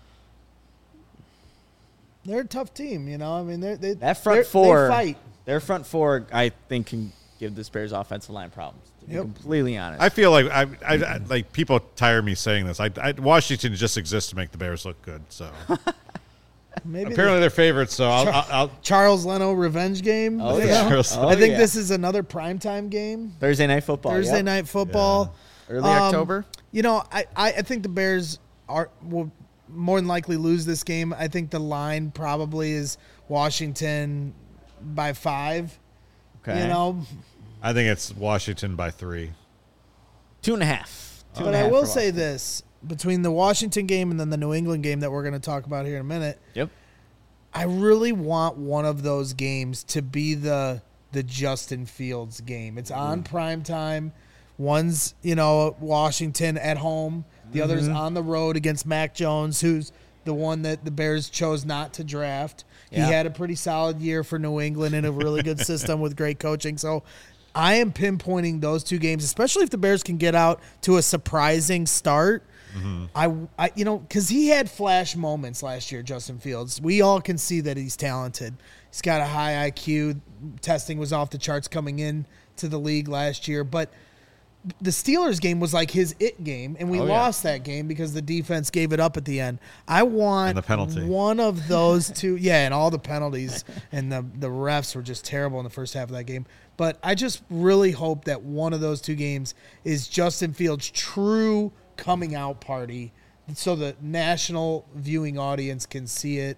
They're a tough team, you know. I mean, they're, they that front they're- four, they fight. their front four, I think, can give the Bears offensive line problems. To be Yep. completely honest. I feel like I, I, I like people tire me saying this. I, I Washington just exists to make the Bears look good. So Maybe apparently the they're favorites. So I'll, I'll, I'll Charles Leno revenge game. Oh, you yeah. know? Charles- Oh, I think yeah. this is another primetime game. Thursday night football. Thursday yep. night football. Early Um, October. You know, I, I, I think the Bears are will more than likely lose this game. I think the line probably is Washington by five. Okay. You know, I think it's Washington by three. Two and a half. Two but and a I half will for say Washington. this: between the Washington game and then the New England game that we're going to talk about here in a minute, Yep. I really want one of those games to be the the Justin Fields game. It's on prime time. One's, you know, Washington at home. The other's on the road against Mac Jones, who's the one that the Bears chose not to draft. Yeah. He had a pretty solid year for New England in a really good system with great coaching. So I am pinpointing those two games, especially if the Bears can get out to a surprising start. I, I, you know, because he had flash moments last year, Justin Fields. We all can see that he's talented. He's got a high I Q. Testing was off the charts coming in to the league last year. But the Steelers game was like his it game, and we Oh, yeah. lost that game because the defense gave it up at the end. I want And the penalty. one of those two. Yeah, and all the penalties, and the, the refs were just terrible in the first half of that game. But I just really hope that one of those two games is Justin Fields' true coming out party so the national viewing audience can see it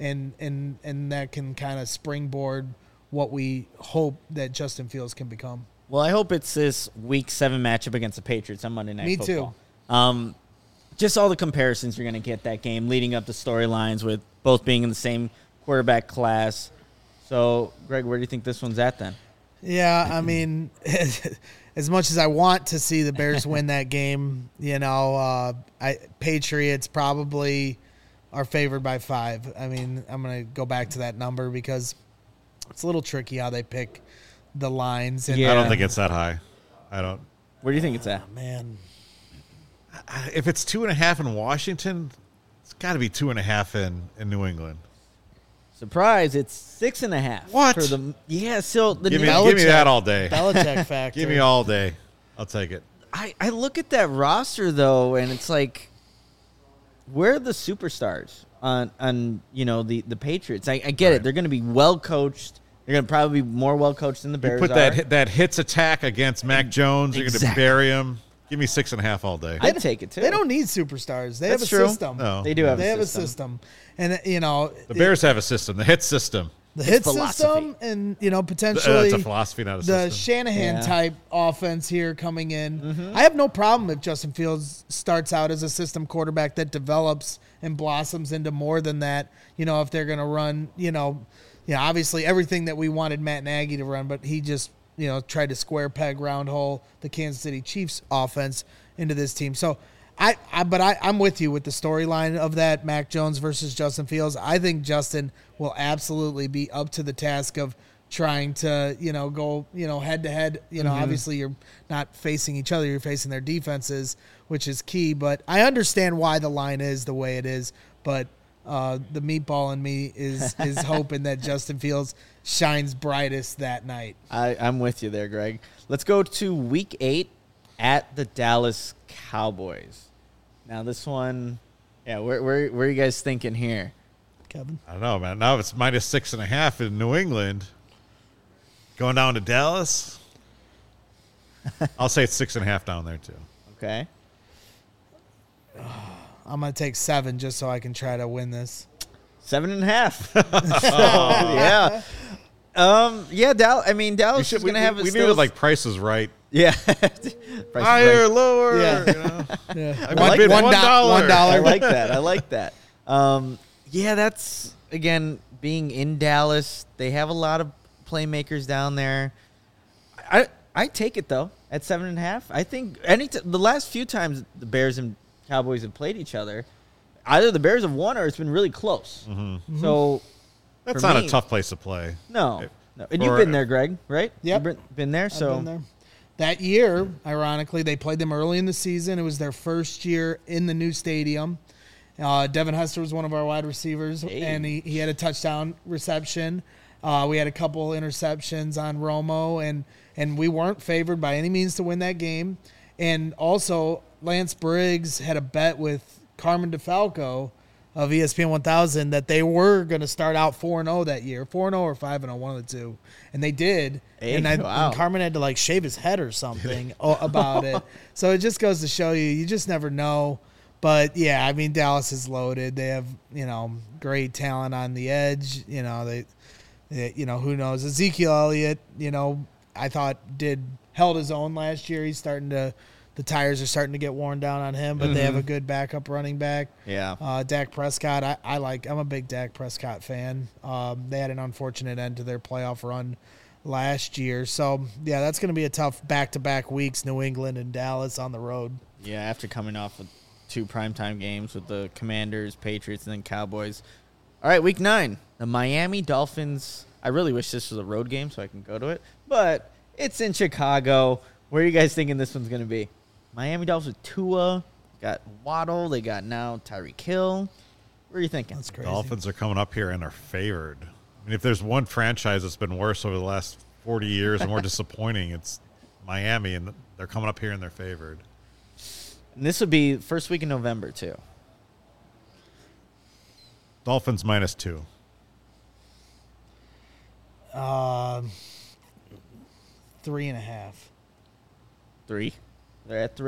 and and and that can kind of springboard what we hope that Justin Fields can become. Well, I hope it's this week seven matchup against the Patriots on Monday Night Me Football. too. Um, just all the comparisons you're going to get that game, leading up the storylines with both being in the same quarterback class. So, Greg, where do you think this one's at then? Yeah, I mean, as much as I want to see the Bears win that game, you know, uh, I Patriots probably are favored by five. I mean, I'm going to go back to that number because it's a little tricky how they pick the lines. And, Yeah. I don't think it's that high. I don't. Where do you think it's at? man, I- If it's two and a half in Washington, it's got to be two and a half in, in New England. Surprise, it's six and a half. What? For the, yeah, so the Give me, Belichick. give me that all day. Belichick factor. Give me all day. I'll take it. I, I look at that roster, though, and it's like, where are the superstars on, on you know, the, the Patriots? I, I get Right. it. They're going to be well-coached. They're going to probably be more well-coached than the You Bears put are. that hit- that hits attack against Mac Jones. You're going to Exactly. bury him. Give me six and a half all day. I'd take it, too. They don't need superstars. They That's have a true. system. No. They do have They a have system. a system. And, uh, you know, The Bears have a system. The hit system. the hit philosophy. system and, you know, Uh, potentially That's a philosophy, not a the system. Shanahan Yeah. type offense here coming in. Mm-hmm. I have no problem if Justin Fields starts out as a system quarterback that develops and blossoms into more than that. You know, if they're going to run, you know, yeah, obviously everything that we wanted Matt Nagy to run, but he just, you know, tried to square peg round hole the Kansas City Chiefs offense into this team. So I, I but I, I'm with you with the storyline of that Mac Jones versus Justin Fields. I think Justin will absolutely be up to the task of trying to, you know, go, you know, head to head. You know, obviously you're not facing each other, you're facing their defenses, which is key. But I understand why the line is the way it is. But uh, the meatball in me is is hoping that Justin Fields shines brightest that night. I, I'm with you there, Greg. Let's go to week eight at the Dallas Cowboys. Now, this one, yeah, where, where, where are you guys thinking here? Kevin? I don't know, man. Now it's minus six and a half in New England. Going down to Dallas. I'll say it's six and a half down there, too. Okay. I'm going to take seven just so I can try to win this. Seven and a half. So, yeah. Um, yeah, Dallas, I mean, Dallas We, is should, we, going to have we, a we still, needed, like, prices right. yeah. Price is Higher, right. lower. Yeah. You know? Yeah. I like might bid that. one One do- dollar. one dollar. I like that. I like that. Um, yeah, that's, again, being in Dallas, they have a lot of playmakers down there. I I take it, though, at seven and a half. I think any t- the last few times the Bears and Cowboys have played each other, either the Bears have won or it's been really close. Mm-hmm. So, That's for not me- a tough place to play. no. no. And For- you've been there, Greg, right? Yep. You've been, been there, I've so. been there. That year, ironically, they played them early in the season. It was their first year in the new stadium. Uh, Devin Hester was one of our wide receivers, Hey. and he, he had a touchdown reception. Uh, we had a couple interceptions on Romo, and, and we weren't favored by any means to win that game. And also, Lance Briggs had a bet with Carmen DeFalco of E S P N one thousand that they were going to start out four and oh that year, four and oh or five and oh, one of the two. And they did. Hey, and, I, wow. and Carmen had to, like, shave his head or something o- about it. So it just goes to show you, you just never know. But, yeah, I mean, Dallas is loaded. They have, you know, great talent on the edge. You know, they, they you know, who knows. Ezekiel Elliott, you know, I thought did held his own last year. He's starting to – the tires are starting to get worn down on him, but they have a good backup running back. Yeah. Uh, Dak Prescott, I, I like. I'm a big Dak Prescott fan. Um, they had an unfortunate end to their playoff run last year, so yeah, that's going to be a tough back-to-back weeks. New England and Dallas on the road. Yeah, after coming off of two primetime games with the Commanders, Patriots, and then Cowboys. All right, week nine, the Miami Dolphins. I really wish this was a road game so I can go to it, but it's in Chicago. Where are you guys thinking this one's going to be? Miami Dolphins with Tua, got Waddle, they got now Tyreek Hill. Where are you thinking? That's crazy. Dolphins are coming up here and are favored. I mean, if there's one franchise that's been worse over the last forty years and more disappointing, it's Miami, and they're coming up here and they're favored. And this would be first week in November, too. Dolphins minus two. Um, three and a half. Three. They're at three.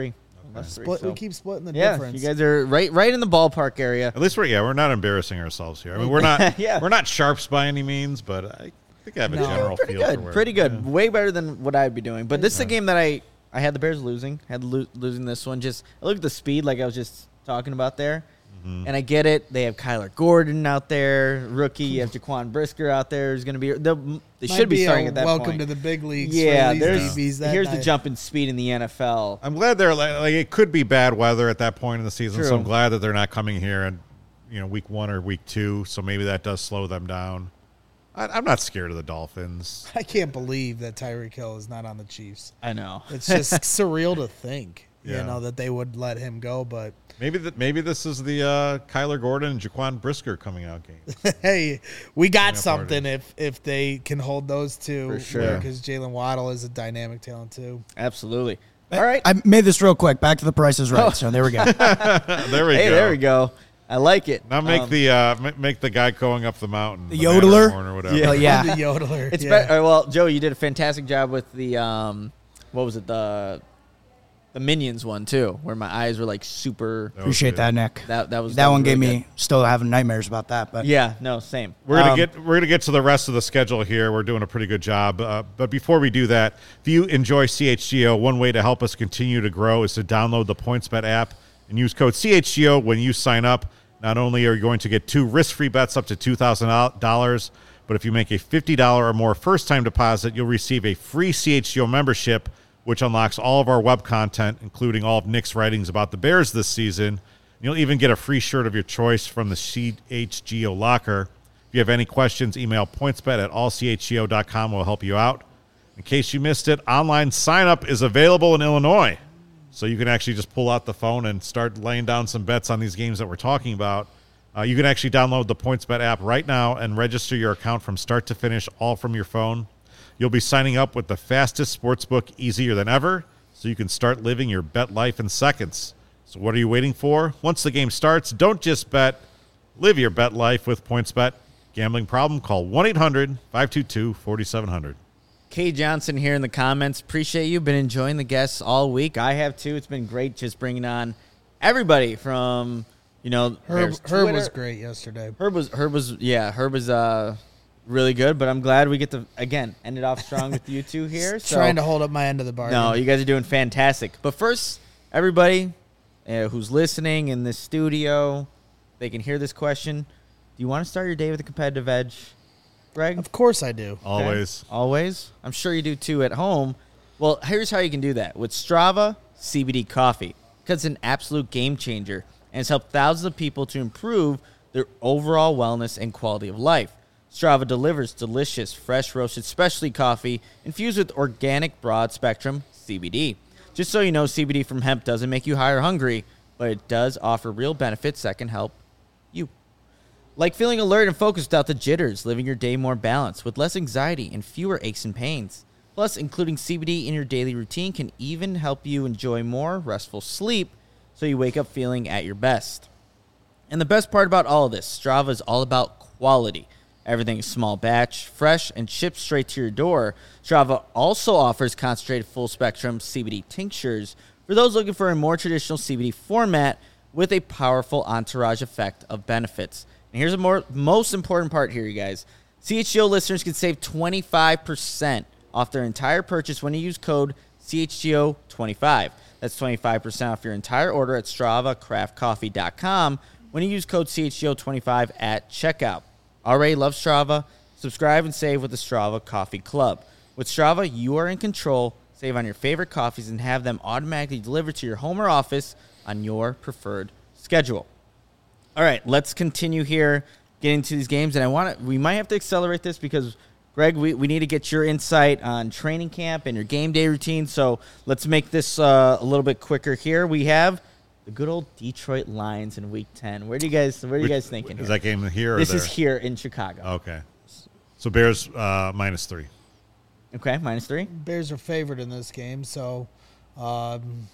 That's three, Split, so- we keep splitting the Yeah, difference. you guys are right, right in the ballpark area. At least we're yeah we're not embarrassing ourselves here. I mean we're not Yeah. we're not sharps by any means, but I think I have a No. general Pretty feel for good, where, pretty good. yeah. Way better than what I'd be doing. But this is a game that I I had the Bears losing, had lo- losing this one. Just I look at the speed, like I was just talking about there. And I get it. They have Kyler Gordon out there, rookie. You have Jaquan Brisker out there. Who's going to be? They Might should be a starting at that welcome point. to the big leagues. Yeah, for these there's D Bs that here's the night. jump in speed in the N F L. I'm glad they're like, like it could be bad weather at that point in the season, so True. I'm glad that they're not coming here and you know week one or week two. So maybe that does slow them down. I, I'm not scared of the Dolphins. I can't believe that Tyreek Hill is not on the Chiefs. I know. It's just surreal to think, Yeah. you know, that they would let him go. But Maybe that maybe this is the uh, Kyler Gordon and Jaquan Brisker coming out game. hey, we got Yeah, something party. if if they can hold those two. For sure. Because Jalen Waddle is a dynamic talent too. Absolutely. All right. I made this real quick. Back to the Price is Right. So there we go. there we Hey, go. there we go. I like it. Now make Um, the uh, ma- make the guy going up the mountain, The yodeler? Matterhorn or whatever. Yeah. Oh, yeah. The yodeler. It's yeah. better. Well, Joe, you did a fantastic job with the um, what was it the the Minions one too, where my eyes were like super. That was Appreciate good. that, Nick. That that was That was one gave really me still having nightmares about that. But good. Yeah. No. Same. We're gonna Um, get we're gonna get to the rest of the schedule here. We're doing a pretty good job, uh, but before we do that, if you enjoy C H G O, one way to help us continue to grow is to download the PointsBet app and use code C H G O when you sign up. Not only are you going to get two risk-free bets up to two thousand dollars, but if you make a fifty dollars or more first-time deposit, you'll receive a free C H G O membership, which unlocks all of our web content, including all of Nick's writings about the Bears this season. You'll even get a free shirt of your choice from the C H G O locker. If you have any questions, email pointsbet at all c h g o dot com. We'll help you out. In case you missed it, online sign-up is available in Illinois. So you can actually just pull out the phone and start laying down some bets on these games that we're talking about. Uh, you can actually download the PointsBet app right now and register your account from start to finish, all from your phone. You'll be signing up with the fastest sportsbook easier than ever, so you can start living your bet life in seconds. So what are you waiting for? Once the game starts, don't just bet. Live your bet life with PointsBet. Gambling problem? Call one eight hundred five two two four seven zero zero. Kay Johnson here in the comments. Appreciate you. Been enjoying the guests all week. I have too. It's been great just bringing on everybody from, you know, Herb, Bears Herb Twitter. was great yesterday. Herb was Herb was yeah Herb was uh really good. But I'm glad we get to again end it off strong with you two here. So Trying to hold up my end of the bargain. no, you guys are doing fantastic. But first, everybody uh, who's listening in this studio, they can hear this question. Do you want to start your day with a competitive edge, Greg? Of course I do. Okay. Always. Always. I'm sure you do too at home. Well, here's how you can do that. With Strava C B D coffee, because it's an absolute game changer and it's helped thousands of people to improve their overall wellness and quality of life. Strava delivers delicious, fresh roasted specialty coffee infused with organic broad spectrum C B D. Just so you know, C B D from hemp doesn't make you high or hungry, but it does offer real benefits that can help you. Like feeling alert and focused without the jitters, living your day more balanced with less anxiety and fewer aches and pains. Plus, including C B D in your daily routine can even help you enjoy more restful sleep so you wake up feeling at your best. And the best part about all of this, Strava is all about quality. Everything is small batch, fresh, and shipped straight to your door. Strava also offers concentrated full-spectrum C B D tinctures for those looking for a more traditional C B D format with a powerful entourage effect of benefits. And here's the more most important part here, you guys. C H G O listeners can save twenty-five percent off their entire purchase when you use code C H G O twenty-five. That's twenty-five percent off your entire order at strava craft coffee dot com when you use code C H G O twenty-five at checkout. Already love Strava? Subscribe and save with the Strava Coffee Club. With Strava, you are in control. Save on your favorite coffees and have them automatically delivered to your home or office on your preferred schedule. All right, let's continue here, getting to these games. And I want to, we might have to accelerate this because, Greg, we, we need to get your insight on training camp and your game day routine. So let's make this uh, a little bit quicker here. We have the good old Detroit Lions in Week ten. Where do you guys, what are you guys thinking Is here? that game here or This there? is here in Chicago. Okay. So Bears uh, minus three. Okay, minus three. Bears are favored in this game, so um,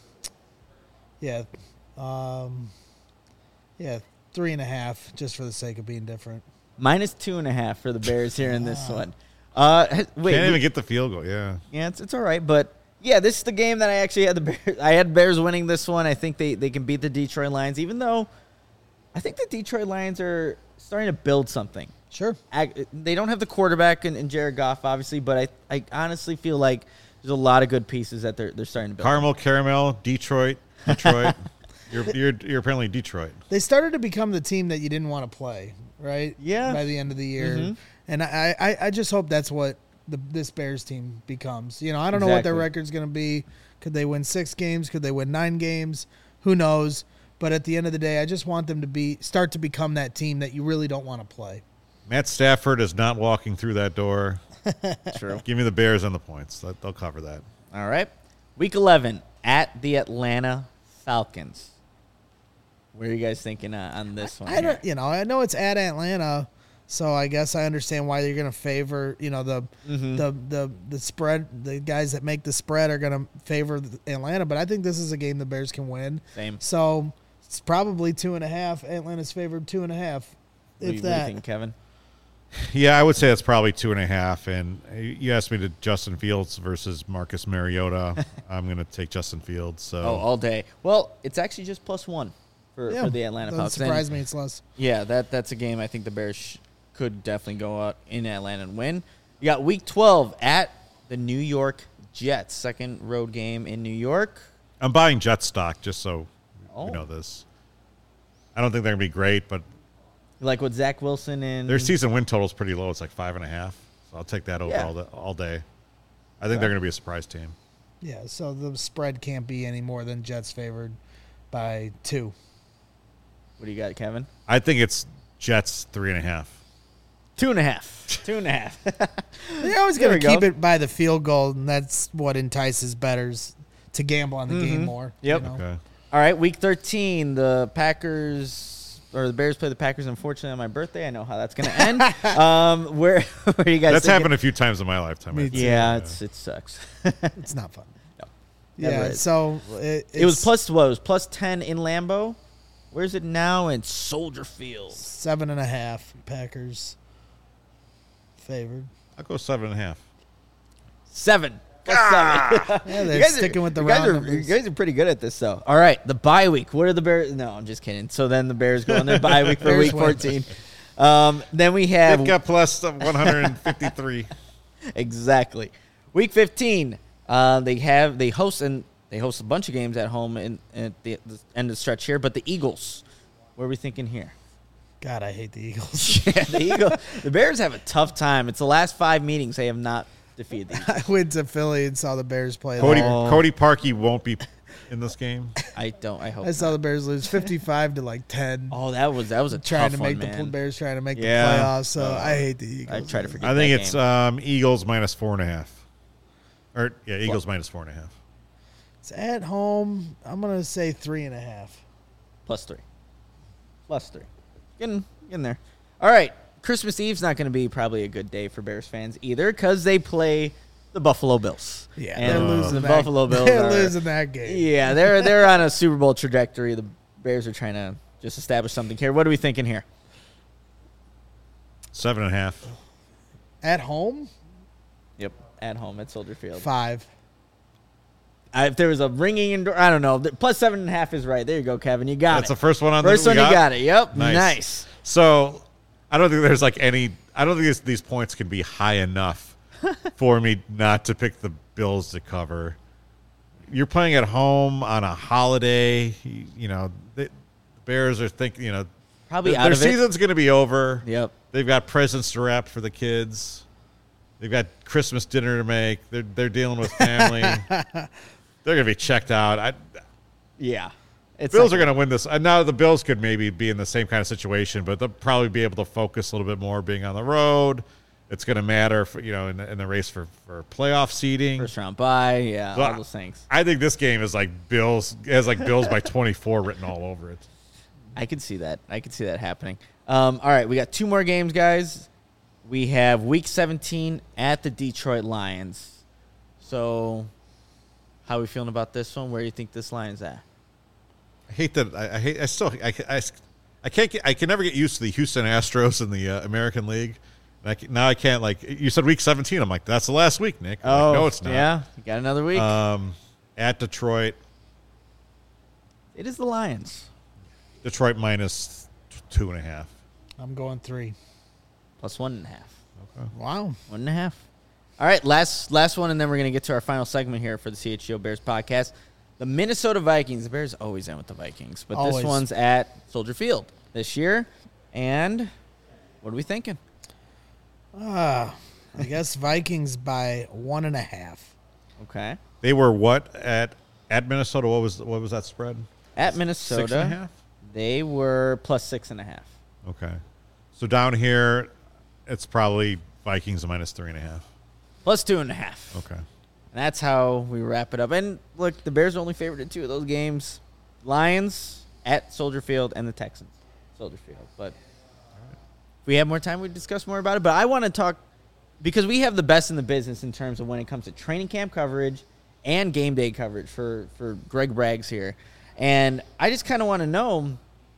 yeah, um, yeah, three and a half, just for the sake of being different. Minus two and a half for the Bears here in this one. Uh, wait, Can't we- even get the field goal. Yeah. yeah, it's, it's all right, but Yeah, this is the game that I actually had the Bears. I had Bears winning this one. I think they, they can beat the Detroit Lions, even though I think the Detroit Lions are starting to build something. Sure. They don't have the quarterback in, in Jared Goff, obviously, but I, I honestly feel like there's a lot of good pieces that they're they're starting to build. Caramel, Caramel, Detroit, Detroit. you're, you're you're apparently Detroit. They started to become the team that you didn't want to play, right? Yeah. By the end of the year. Mm-hmm. And I, I, I just hope that's what the this Bears team becomes. You know, I don't know what their Exactly. record's going to be. Could they win six games? Could they win nine games? Who knows? But at the end of the day, I just want them to be start to become that team that you really don't want to play. Matt Stafford is not walking through that door. True. Give me the Bears and the points. That- They'll cover that. All right. Week eleven at the Atlanta Falcons. What are you guys thinking uh, on this one? I here? don't, you know, I know it's at Atlanta, so I guess I understand why you're going to favor, you know, the Mm-hmm. the the the spread. The guys that make the spread are going to favor the Atlanta, but I think this is a game the Bears can win. Same. So it's probably two and a half. Atlanta's favored two and a half, What do if you, what do you that. think, Kevin? Yeah, I would say it's probably two and a half. And you asked me to Justin Fields versus Marcus Mariota. I'm going to take Justin Fields. So Oh, all day. Well, it's actually just plus one for, Yeah, for the Atlanta doesn't Falcons. surprise And, me. It's less. Yeah, that that's a game I think the Bears sh- could definitely go out in Atlanta and win. You got Week twelve at the New York Jets, second road game in New York. I'm buying Jet stock just so Oh. we know this. I don't think they're going to be great, but You like what Zach Wilson and their season win total is pretty low. It's like five and a half. So I'll take that over Yeah. all, the, all day. I think they're going to be a surprise team. Yeah, so the spread can't be any more than Jets favored by two. What do you got, Kevin? I think it's Jets three and a half. Two and a half. Two and a half. They're always There going to we keep go. it by the field goal, and that's what entices bettors to gamble on the game more. Mm-hmm. Yep. you know? Okay. All right, Week thirteen, the Packers or the Bears play the Packers. Unfortunately, on my birthday, I know how that's going to end. um, where, where are you guys? That's thinking? happened a few times in my lifetime. Me I too. think. Yeah, it's it sucks. It's not fun. No, never Yeah, is. so it, It was it's plus what? It was plus ten in Lambeau. Where's it now? In Soldier Field. seven and a half. Packers favored. I'll go seven and a half. Seven. Plus seven. Yeah, they're You guys are- sticking with the you guys round are, numbers. You guys are pretty good at this, though. All right, the bye week. What are the Bears? No, I'm just kidding. So then the Bears go on their bye week for Bears Week win. fourteen. Um, then we have They've got plus one hundred fifty-three. exactly Week fifteen. Uh, they have they host and they host a bunch of games at home in, at the, the end of the stretch here. But the Eagles, what are we thinking here? God, I hate the Eagles. Yeah, the Eagles. The Bears have a tough time. It's the last five meetings they have not defeated the Eagles. I went to Philly and saw the Bears play. Cody, there. Oh. Cody Parkey won't be in this game. I don't. I hope. I saw not. the Bears lose fifty-five to like ten. Oh, that was that was a trying tough to make one, the man. Bears trying to make Yeah. the playoffs. So I hate the Eagles. I try to forget. I think that it's game. um, Eagles minus four and a half. Or yeah, Eagles minus four and a half. It's at home. I'm gonna say three and a half. plus three. Plus three. Getting getting there. All right. Christmas Eve's not going to be probably a good day for Bears fans either because they play the Buffalo Bills. Yeah, And they're losing the that. Buffalo Bills. They're are- losing that game. Yeah, they're they're on a Super Bowl trajectory. The Bears are trying to just establish something here. What are we thinking here? Seven and a half. At home, Yep, at home at Soldier Field. five. I, if there was a ringing indoor, I don't know. The- Plus seven and a half is right. There you go, Kevin. You got That's it. the first one on First the one we you got it. Yep, Nice. nice. So I don't think there's like any. I don't think these, these points can be high enough for me not to pick the Bills to cover. You're playing at home on a holiday. You, you know, the Bears are thinking. You know, Probably their, out their of it. season's going to be over. Yep. They've got presents to wrap for the kids. They've got Christmas dinner to make. They're they're dealing with family. They're going to be checked out. I, Yeah. It's Bills not are going to win this. And now the Bills could maybe be in the same kind of situation, but they'll probably be able to focus a little bit more being on the road. It's going to matter, for, you know, in the, in the race for, for playoff seeding. First round bye. Yeah, So all I- those things. I think this game is like Bills has like Bills by twenty-four written all over it. I could see that. I could see that happening. Um, all right, we got two more games, guys. We have Week seventeen at the Detroit Lions. So, how are we feeling about this one? Where do you think this line's at? I hate that. I, I hate. I still. I, I, I can't get. I can never get used to the Houston Astros in the uh, American League. I can, now I can't, like, you said week seventeen. I'm like, that's the last week, Nick. I'm Oh, like, no, it's not. Yeah, you got another week. Um, at Detroit. It is the Lions. Detroit minus two and a half. I'm going three. Plus one and a half. Okay. Wow. One and a half. All right, last last one, and then we're going to get to our final segment here for the C H G O Bears podcast. The Minnesota Vikings. The Bears always end with the Vikings, but Always. this one's at Soldier Field this year. And what are we thinking? Ah, I guess Vikings by one and a half. Okay. They were what at at Minnesota? What was what was that spread? At Minnesota, Six and a half? they were plus six and a half. Okay. So down here, it's probably Vikings minus three and a half. Plus two and a half. Okay. And that's how we wrap it up. And look, the Bears are only favored in two of those games. Lions at Soldier Field and the Texans. Soldier Field. But if we have more time, we'd discuss more about it. But I want to talk, because we have the best in the business in terms of when it comes to training camp coverage and game day coverage for, for Greg Braggs here. And I just kind of want to know,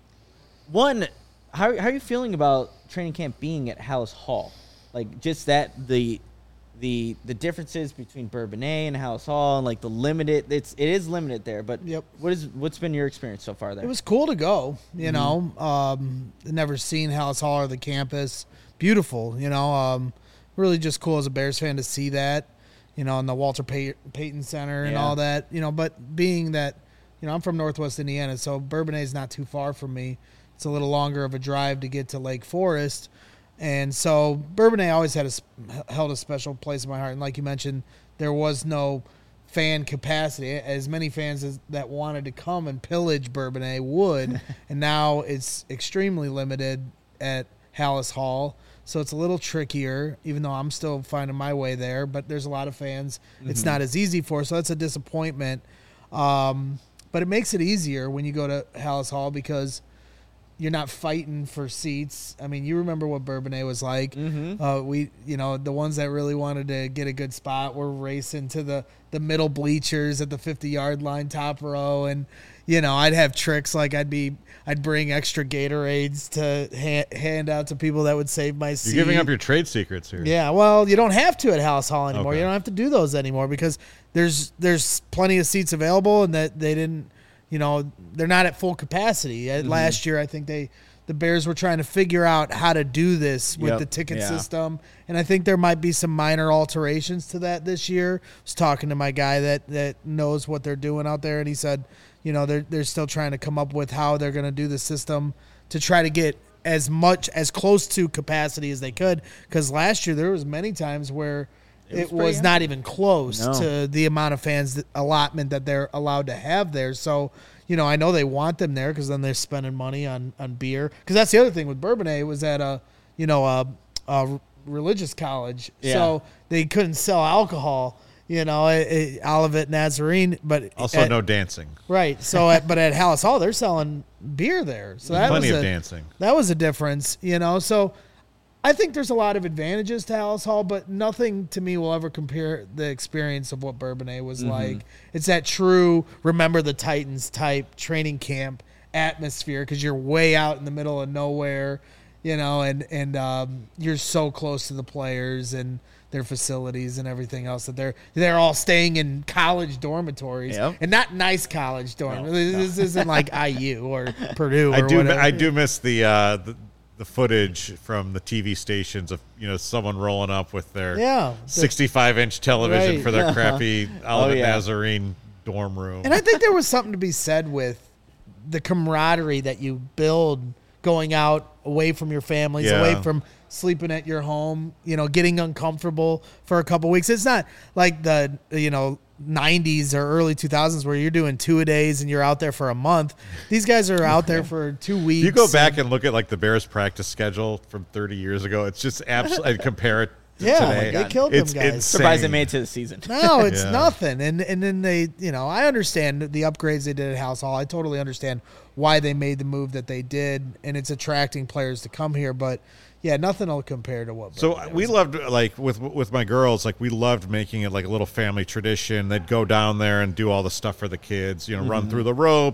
one, how, how are you feeling about training camp being at Hallis Hall? Like, just that, the the the differences between Bourbonnais and Hallis Hall, and like the limited, it's it is limited there. But Yep. what is what's been your experience so far there? It was cool to go, you Mm-hmm. know. Um, never seen Hallis Hall or the campus. Beautiful, you know. Um, really just cool as a Bears fan to see that, you know, in the Walter Pay- Payton Center and Yeah. all that, you know. But being that, you know, I'm from Northwest Indiana, so Bourbonnais is not too far from me. It's a little longer of a drive to get to Lake Forest. And so Bourbonnais always had a, held a special place in my heart. And like you mentioned, there was no fan capacity. As many fans as that wanted to come and pillage Bourbonnais would. And now it's extremely limited at Hallis Hall. So it's a little trickier, even though I'm still finding my way there. But there's a lot of fans it's not as easy for. So that's a disappointment. Um, but it makes it easier when you go to Hallis Hall because you're not fighting for seats. I mean, you remember what Bourbonnais was like. Mm-hmm. Uh, we, you know, the ones that really wanted to get a good spot were racing to the, the middle bleachers at the fifty-yard line, top row. And, you know, I'd have tricks like I'd be, I'd bring extra Gatorades to ha- hand out to people that would save my seat. You're giving up your trade secrets here. Yeah, well, you don't have to at Hallis Hall anymore. Okay. You don't have to do those anymore because there's there's plenty of seats available, and that they didn't, you know, they're not at full capacity. Mm-hmm. Last year, I think they the Bears were trying to figure out how to do this with Yep. the ticket Yeah. system, and I think there might be some minor alterations to that this year. I was talking to my guy that that knows what they're doing out there, and he said, you know, they're they're still trying to come up with how they're going to do the system to try to get as much as close to capacity as they could. Because last year there was many times where It was it pretty was not even close No. to the amount of fans that, allotment that they're allowed to have there. So, you know, I know they want them there because then they're spending money on, on beer. Because that's the other thing with Bourbonnais. It was at a, you know, a, a religious college. Yeah. So they couldn't sell alcohol, you know, it, it, Olivet Nazarene. But Also, at- no dancing. Right. So, at, but at Hallis Hall, they're selling beer there. So that Plenty was of a, dancing. That was a difference, you know. So I think there's a lot of advantages to Hallis Hall, but nothing to me will ever compare the experience of what Bourbonnais was Mm-hmm. like. It's that true remember the Titans type training camp atmosphere because you're way out in the middle of nowhere, you know, and and um, you're so close to the players and their facilities and everything else that they're they're all staying in college dormitories Yep. and not nice college dorms. No, this isn't like I U or Purdue. Or I do. whatever. I do miss the, uh, the the footage from the T V stations of, you know, someone rolling up with their Yeah. sixty-five inch television Right. for their crappy Olivet yeah. Nazarene dorm room. And I think there was something to be said with the camaraderie that you build going out away from your families, Yeah. away from sleeping at your home, you know, getting uncomfortable for a couple weeks. It's not like the, you know, nineties or early two thousands where you're doing two a days and you're out there for a month. These guys are out there for two weeks. you go back and look at like the Bears practice schedule from thirty years ago. It's just absolutely and compare it to Yeah, today. they killed them it's guys. insane. Surprised they made it to the season. No, it's Yeah. nothing. And and then they, you know, I understand the upgrades they did at Hallis Hall. I totally understand why they made the move that they did, and it's attracting players to come here. But yeah, nothing will compare to what. So Bourbonnais we was. loved, like with with my girls, like we loved making it like a little family tradition. They'd go down there and do all the stuff for the kids, you know, run through the ropes,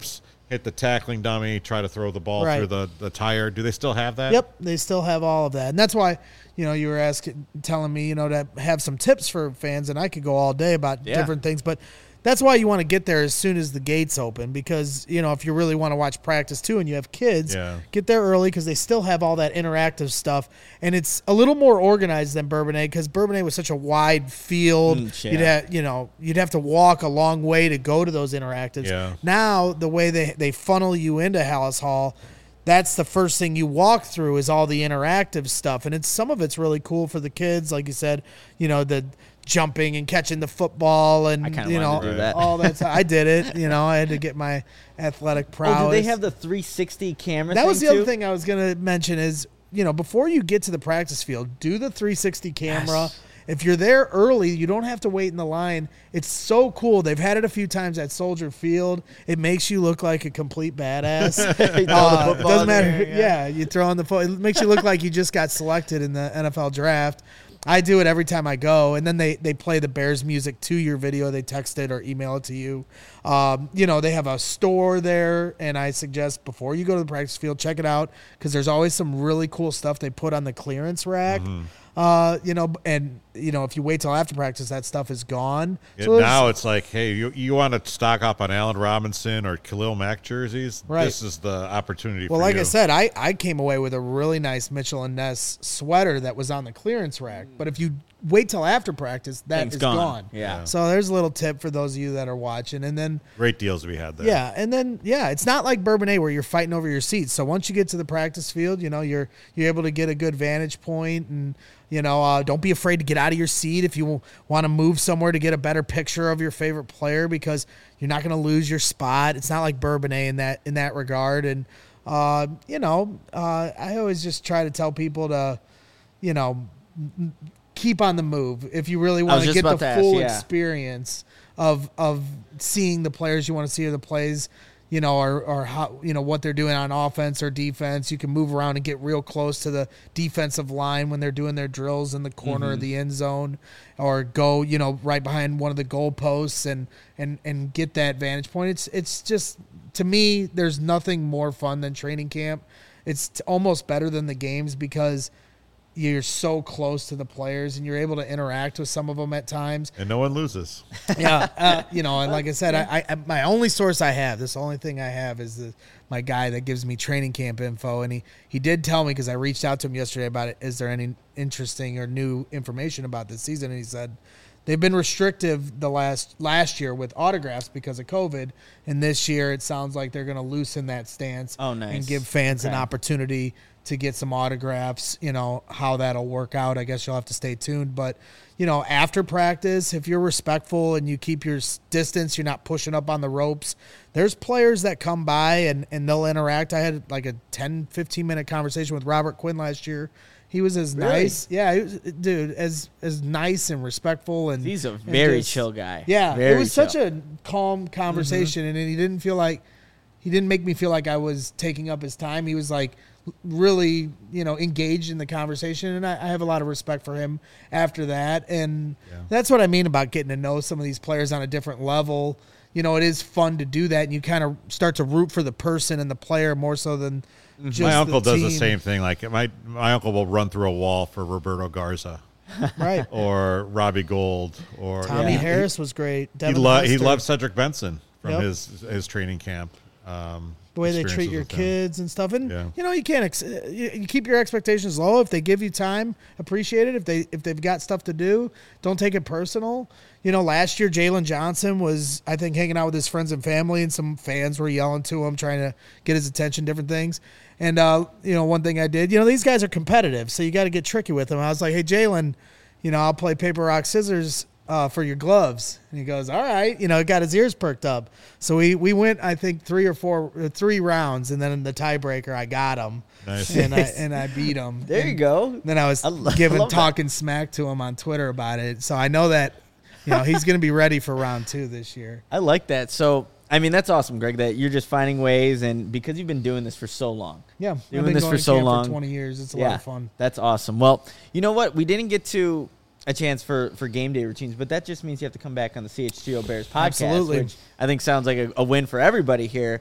hit the tackling dummy, try to throw the ball Right. through the, the tire. Do they still have that? Yep, they still have all of that, and that's why you know you were asking, telling me you know to have some tips for fans, and I could go all day about Yeah. different things, but that's why you want to get there as soon as the gates open, because you know if you really want to watch practice too, and you have kids, Yeah. get there early because they still have all that interactive stuff, and it's a little more organized than Bourbonnais because Bourbonnais was such a wide field. Mm, yeah. You'd have you know you'd have to walk a long way to go to those interactives. Yeah. Now the way they they funnel you into Hallis Hall, that's the first thing you walk through is all the interactive stuff, and it's some of it's really cool for the kids, like you said, you know the jumping and catching the football and I kinda you know wanted to do that. all that. I did it, you know. I had to get my athletic prowess. Oh, do they have the three sixty camera? That thing was the too? other thing I was gonna mention is you know before you get to the practice field, do the three sixty camera. Yes. If you're there early, you don't have to wait in the line. It's so cool. They've had it a few times at Soldier Field. It makes you look like a complete badass. You throw the Uh, football doesn't in matter. there, Yeah. yeah. you throw in the foot. It makes you look like you just got selected in the N F L draft. I do it every time I go, and then they, they play the Bears music to your video. They text it or email it to you. Um, you know, they have a store there, and I suggest before you go to the practice field, check it out because there's always some really cool stuff they put on the clearance rack. Mm-hmm. Uh, you know, and you know, if you wait till after practice, that stuff is gone. Yeah, So there's- now it's like, hey, you you want to stock up on Allen Robinson or Khalil Mack jerseys? Right. This is the opportunity Well, for like you. I said, I, I came away with a really nice Mitchell and Ness sweater that was on the clearance rack. But if you wait till after practice, that Thing's is gone. gone. Yeah. So there's a little tip for those of you that are watching. And then, Great deals we had there. yeah, and then, yeah, it's not like Bourbonnais where you're fighting over your seats. So once you get to the practice field, you know, you're you're able to get a good vantage point and, you know, uh, don't be afraid to get out of your seat if you want to move somewhere to get a better picture of your favorite player because you're not going to lose your spot. It's not like Bourbonnais in that in that regard. And, uh, you know, uh, I always just try to tell people to, you know, m- keep on the move if you really I was want to just get the about to ask, full yeah. experience of of seeing the players you want to see or the plays, you know, or or how you know what they're doing on offense or defense. You can move around and get real close to the defensive line when they're doing their drills in the corner Mm-hmm. of the end zone, or go you know right behind one of the goal posts and and and get that vantage point. It's it's just to me, there's nothing more fun than training camp. It's t- almost better than the games because you're so close to the players and you're able to interact with some of them at times. And no one loses. Yeah, uh, you know, and like I said, I, I my only source I have, this only thing I have is the, my guy that gives me training camp info, and he he did tell me because I reached out to him yesterday about it. Is there any interesting or new information about this season? And he said they've been restrictive the last last year with autographs because of COVID, and this year it sounds like they're going to loosen that stance Oh, nice. and give fans an Okay. opportunity to get some autographs. You know, how that'll work out, I guess you'll have to stay tuned. But, you know, after practice, if you're respectful and you keep your s- distance, you're not pushing up on the ropes, there's players that come by and, and they'll interact. I had like a ten, fifteen minute conversation with Robert Quinn last year. He was as Really? nice. Yeah, he was, dude, as as nice and respectful. And He's a and very just- chill guy. Yeah, Very it was chill. such a calm conversation, and he didn't feel like he didn't make me feel like I was taking up his time. He was like really, you know, engaged in the conversation, and I, I have a lot of respect for him after that. And Yeah. that's what I mean about getting to know some of these players on a different level. You know, it is fun to do that, and you kind of start to root for the person and the player more so than just My uncle the does the team. same thing. Like my my uncle will run through a wall for Roberto Garza Right. or Robbie Gold or Tommy Yeah. Harris was great. He, Devin lo- he Hester. loves Cedric Benson from Yep. his his training camp. Um, the way they treat experiences your with him. kids and stuff, and Yeah. you know you can't ex- you, you keep your expectations low. If they give you time, appreciate it. If they if they've got stuff to do, don't take it personal. You know, last year Jalen Johnson was, I think, hanging out with his friends and family, and some fans were yelling to him, trying to get his attention, different things. And uh, you know, one thing I did, you know, these guys are competitive, so you got to get tricky with them. I was like, hey Jalen, you know, I'll play paper rock scissors uh, for your gloves. And he goes, all right. You know, got his ears perked up. So we, we went, I think, three or four, uh, three rounds. And then in the tiebreaker, I got him. Nice. And I, and I beat him. There and you go. Then I was I lo- giving, love that. talking smack to him on Twitter about it. So I know that, you know, he's going to be ready for round two this year. I like that. So, I mean, that's awesome, Greg, that you're just finding ways, and because you've been doing this for so long. Yeah. Doing I've been this going for to so camp long. For twenty years. It's a yeah, lot of fun. That's awesome. Well, you know what? We didn't get to a chance for, for game day routines, but that just means you have to come back on the C H G O Bears podcast, Absolutely. which I think sounds like a, a win for everybody here.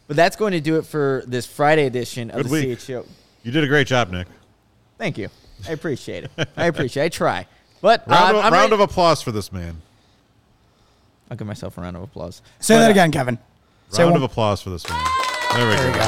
But that's going to do it for this Friday edition of Good the week. C H G O. You did a great job, Nick. Thank you. I appreciate it. I appreciate it. I try. But Round, uh, of, I'm round ready- of applause for this man. I'll give myself a round of applause. Say But, that uh, again, Kevin. Say Round one- of applause for this man. There we There go.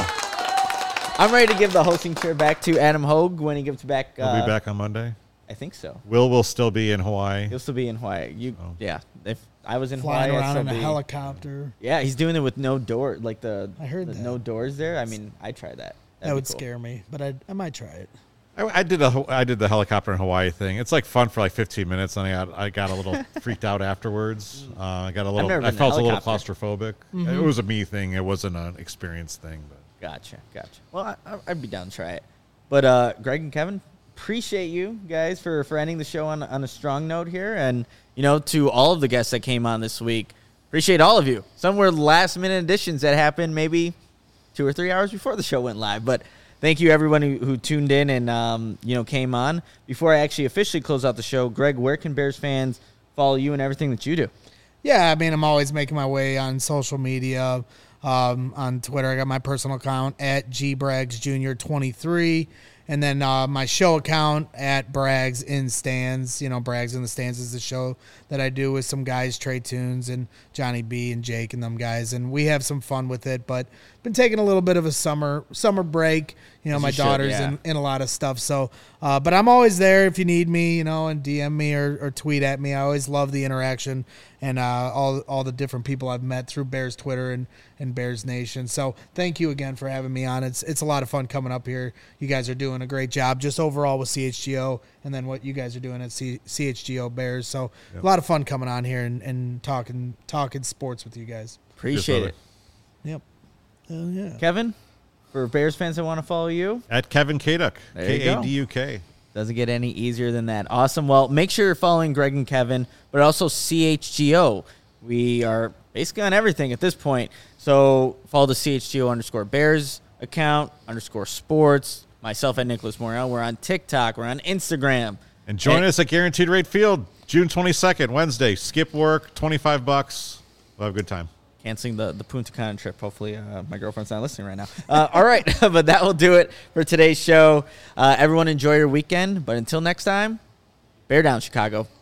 you go. I'm ready to give the hosting chair back to Adam Hogue when he gives back. We'll Uh, be back on Monday. I think so. Will will still be in Hawaii. He'll still be in Hawaii. You, Oh. yeah. If I was in Flying Hawaii, I'd around still in a be- helicopter. Yeah, he's doing it with no door, like the, I heard the that. no doors there. I mean, I'd try that. That'd That be would cool. scare me, but I I might try it. I, I did a I did the helicopter in Hawaii thing. It's like fun for like fifteen minutes, and I got I got a little freaked out afterwards. Uh, I got a little. never I been in a felt a little helicopter. claustrophobic. It was a me thing. It wasn't an experience thing. But Gotcha, gotcha. Well, I, I- I'd be down to try it. But uh, Greg and Kevin, appreciate you guys for, for ending the show on, on a strong note here. And, you know, to all of the guests that came on this week, appreciate all of you. Some were last-minute additions that happened maybe two or three hours before the show went live. But thank you, everyone who, who tuned in and, um, you know, came on. Before I actually officially close out the show, Greg, where can Bears fans follow you and everything that you do? Yeah, I mean, I'm always making my way on social media. Um, on Twitter, I got my personal account at G Braggs Junior twenty-three, and then uh, my show account at Braggs in Stands. You know, Braggs in the Stands is the show that I do with some guys, Trey Tunes and Johnny B and Jake and them guys, and we have some fun with it. But been taking a little bit of a summer summer break. You know, As my you should, daughter's yeah. in, in a lot of stuff. So, uh, but I'm always there if you need me, you know, and D M me or, or tweet at me. I always love the interaction and uh, all all the different people I've met through Bears Twitter and, and Bears Nation. So thank you again for having me on. It's it's a lot of fun coming up here. You guys are doing a great job just overall with C H G O and then what you guys are doing at C- CHGO Bears. So Yep. a lot of fun coming on here and, and talking talking sports with you guys. Appreciate brother. it. Yep. Hell yeah. Kevin, for Bears fans that want to follow you, at Kevin Kaduk, There you K go. A D U K. doesn't get any easier than that. Awesome. Well, make sure you're following Greg and Kevin, but also C H G O. We are basically on everything at this point. So follow the C H G O underscore Bears account, underscore sports. Myself at Nicholas Morel. We're on TikTok. We're on Instagram. And join And- us at Guaranteed Rate Field, June twenty-second, Wednesday. Skip work, twenty-five bucks. We'll have a good time. Canceling the, the Punta Cana trip. Hopefully, uh, my girlfriend's not listening right now. Uh, all right. But that will do it for today's show. Uh, everyone enjoy your weekend. But until next time, bear down, Chicago.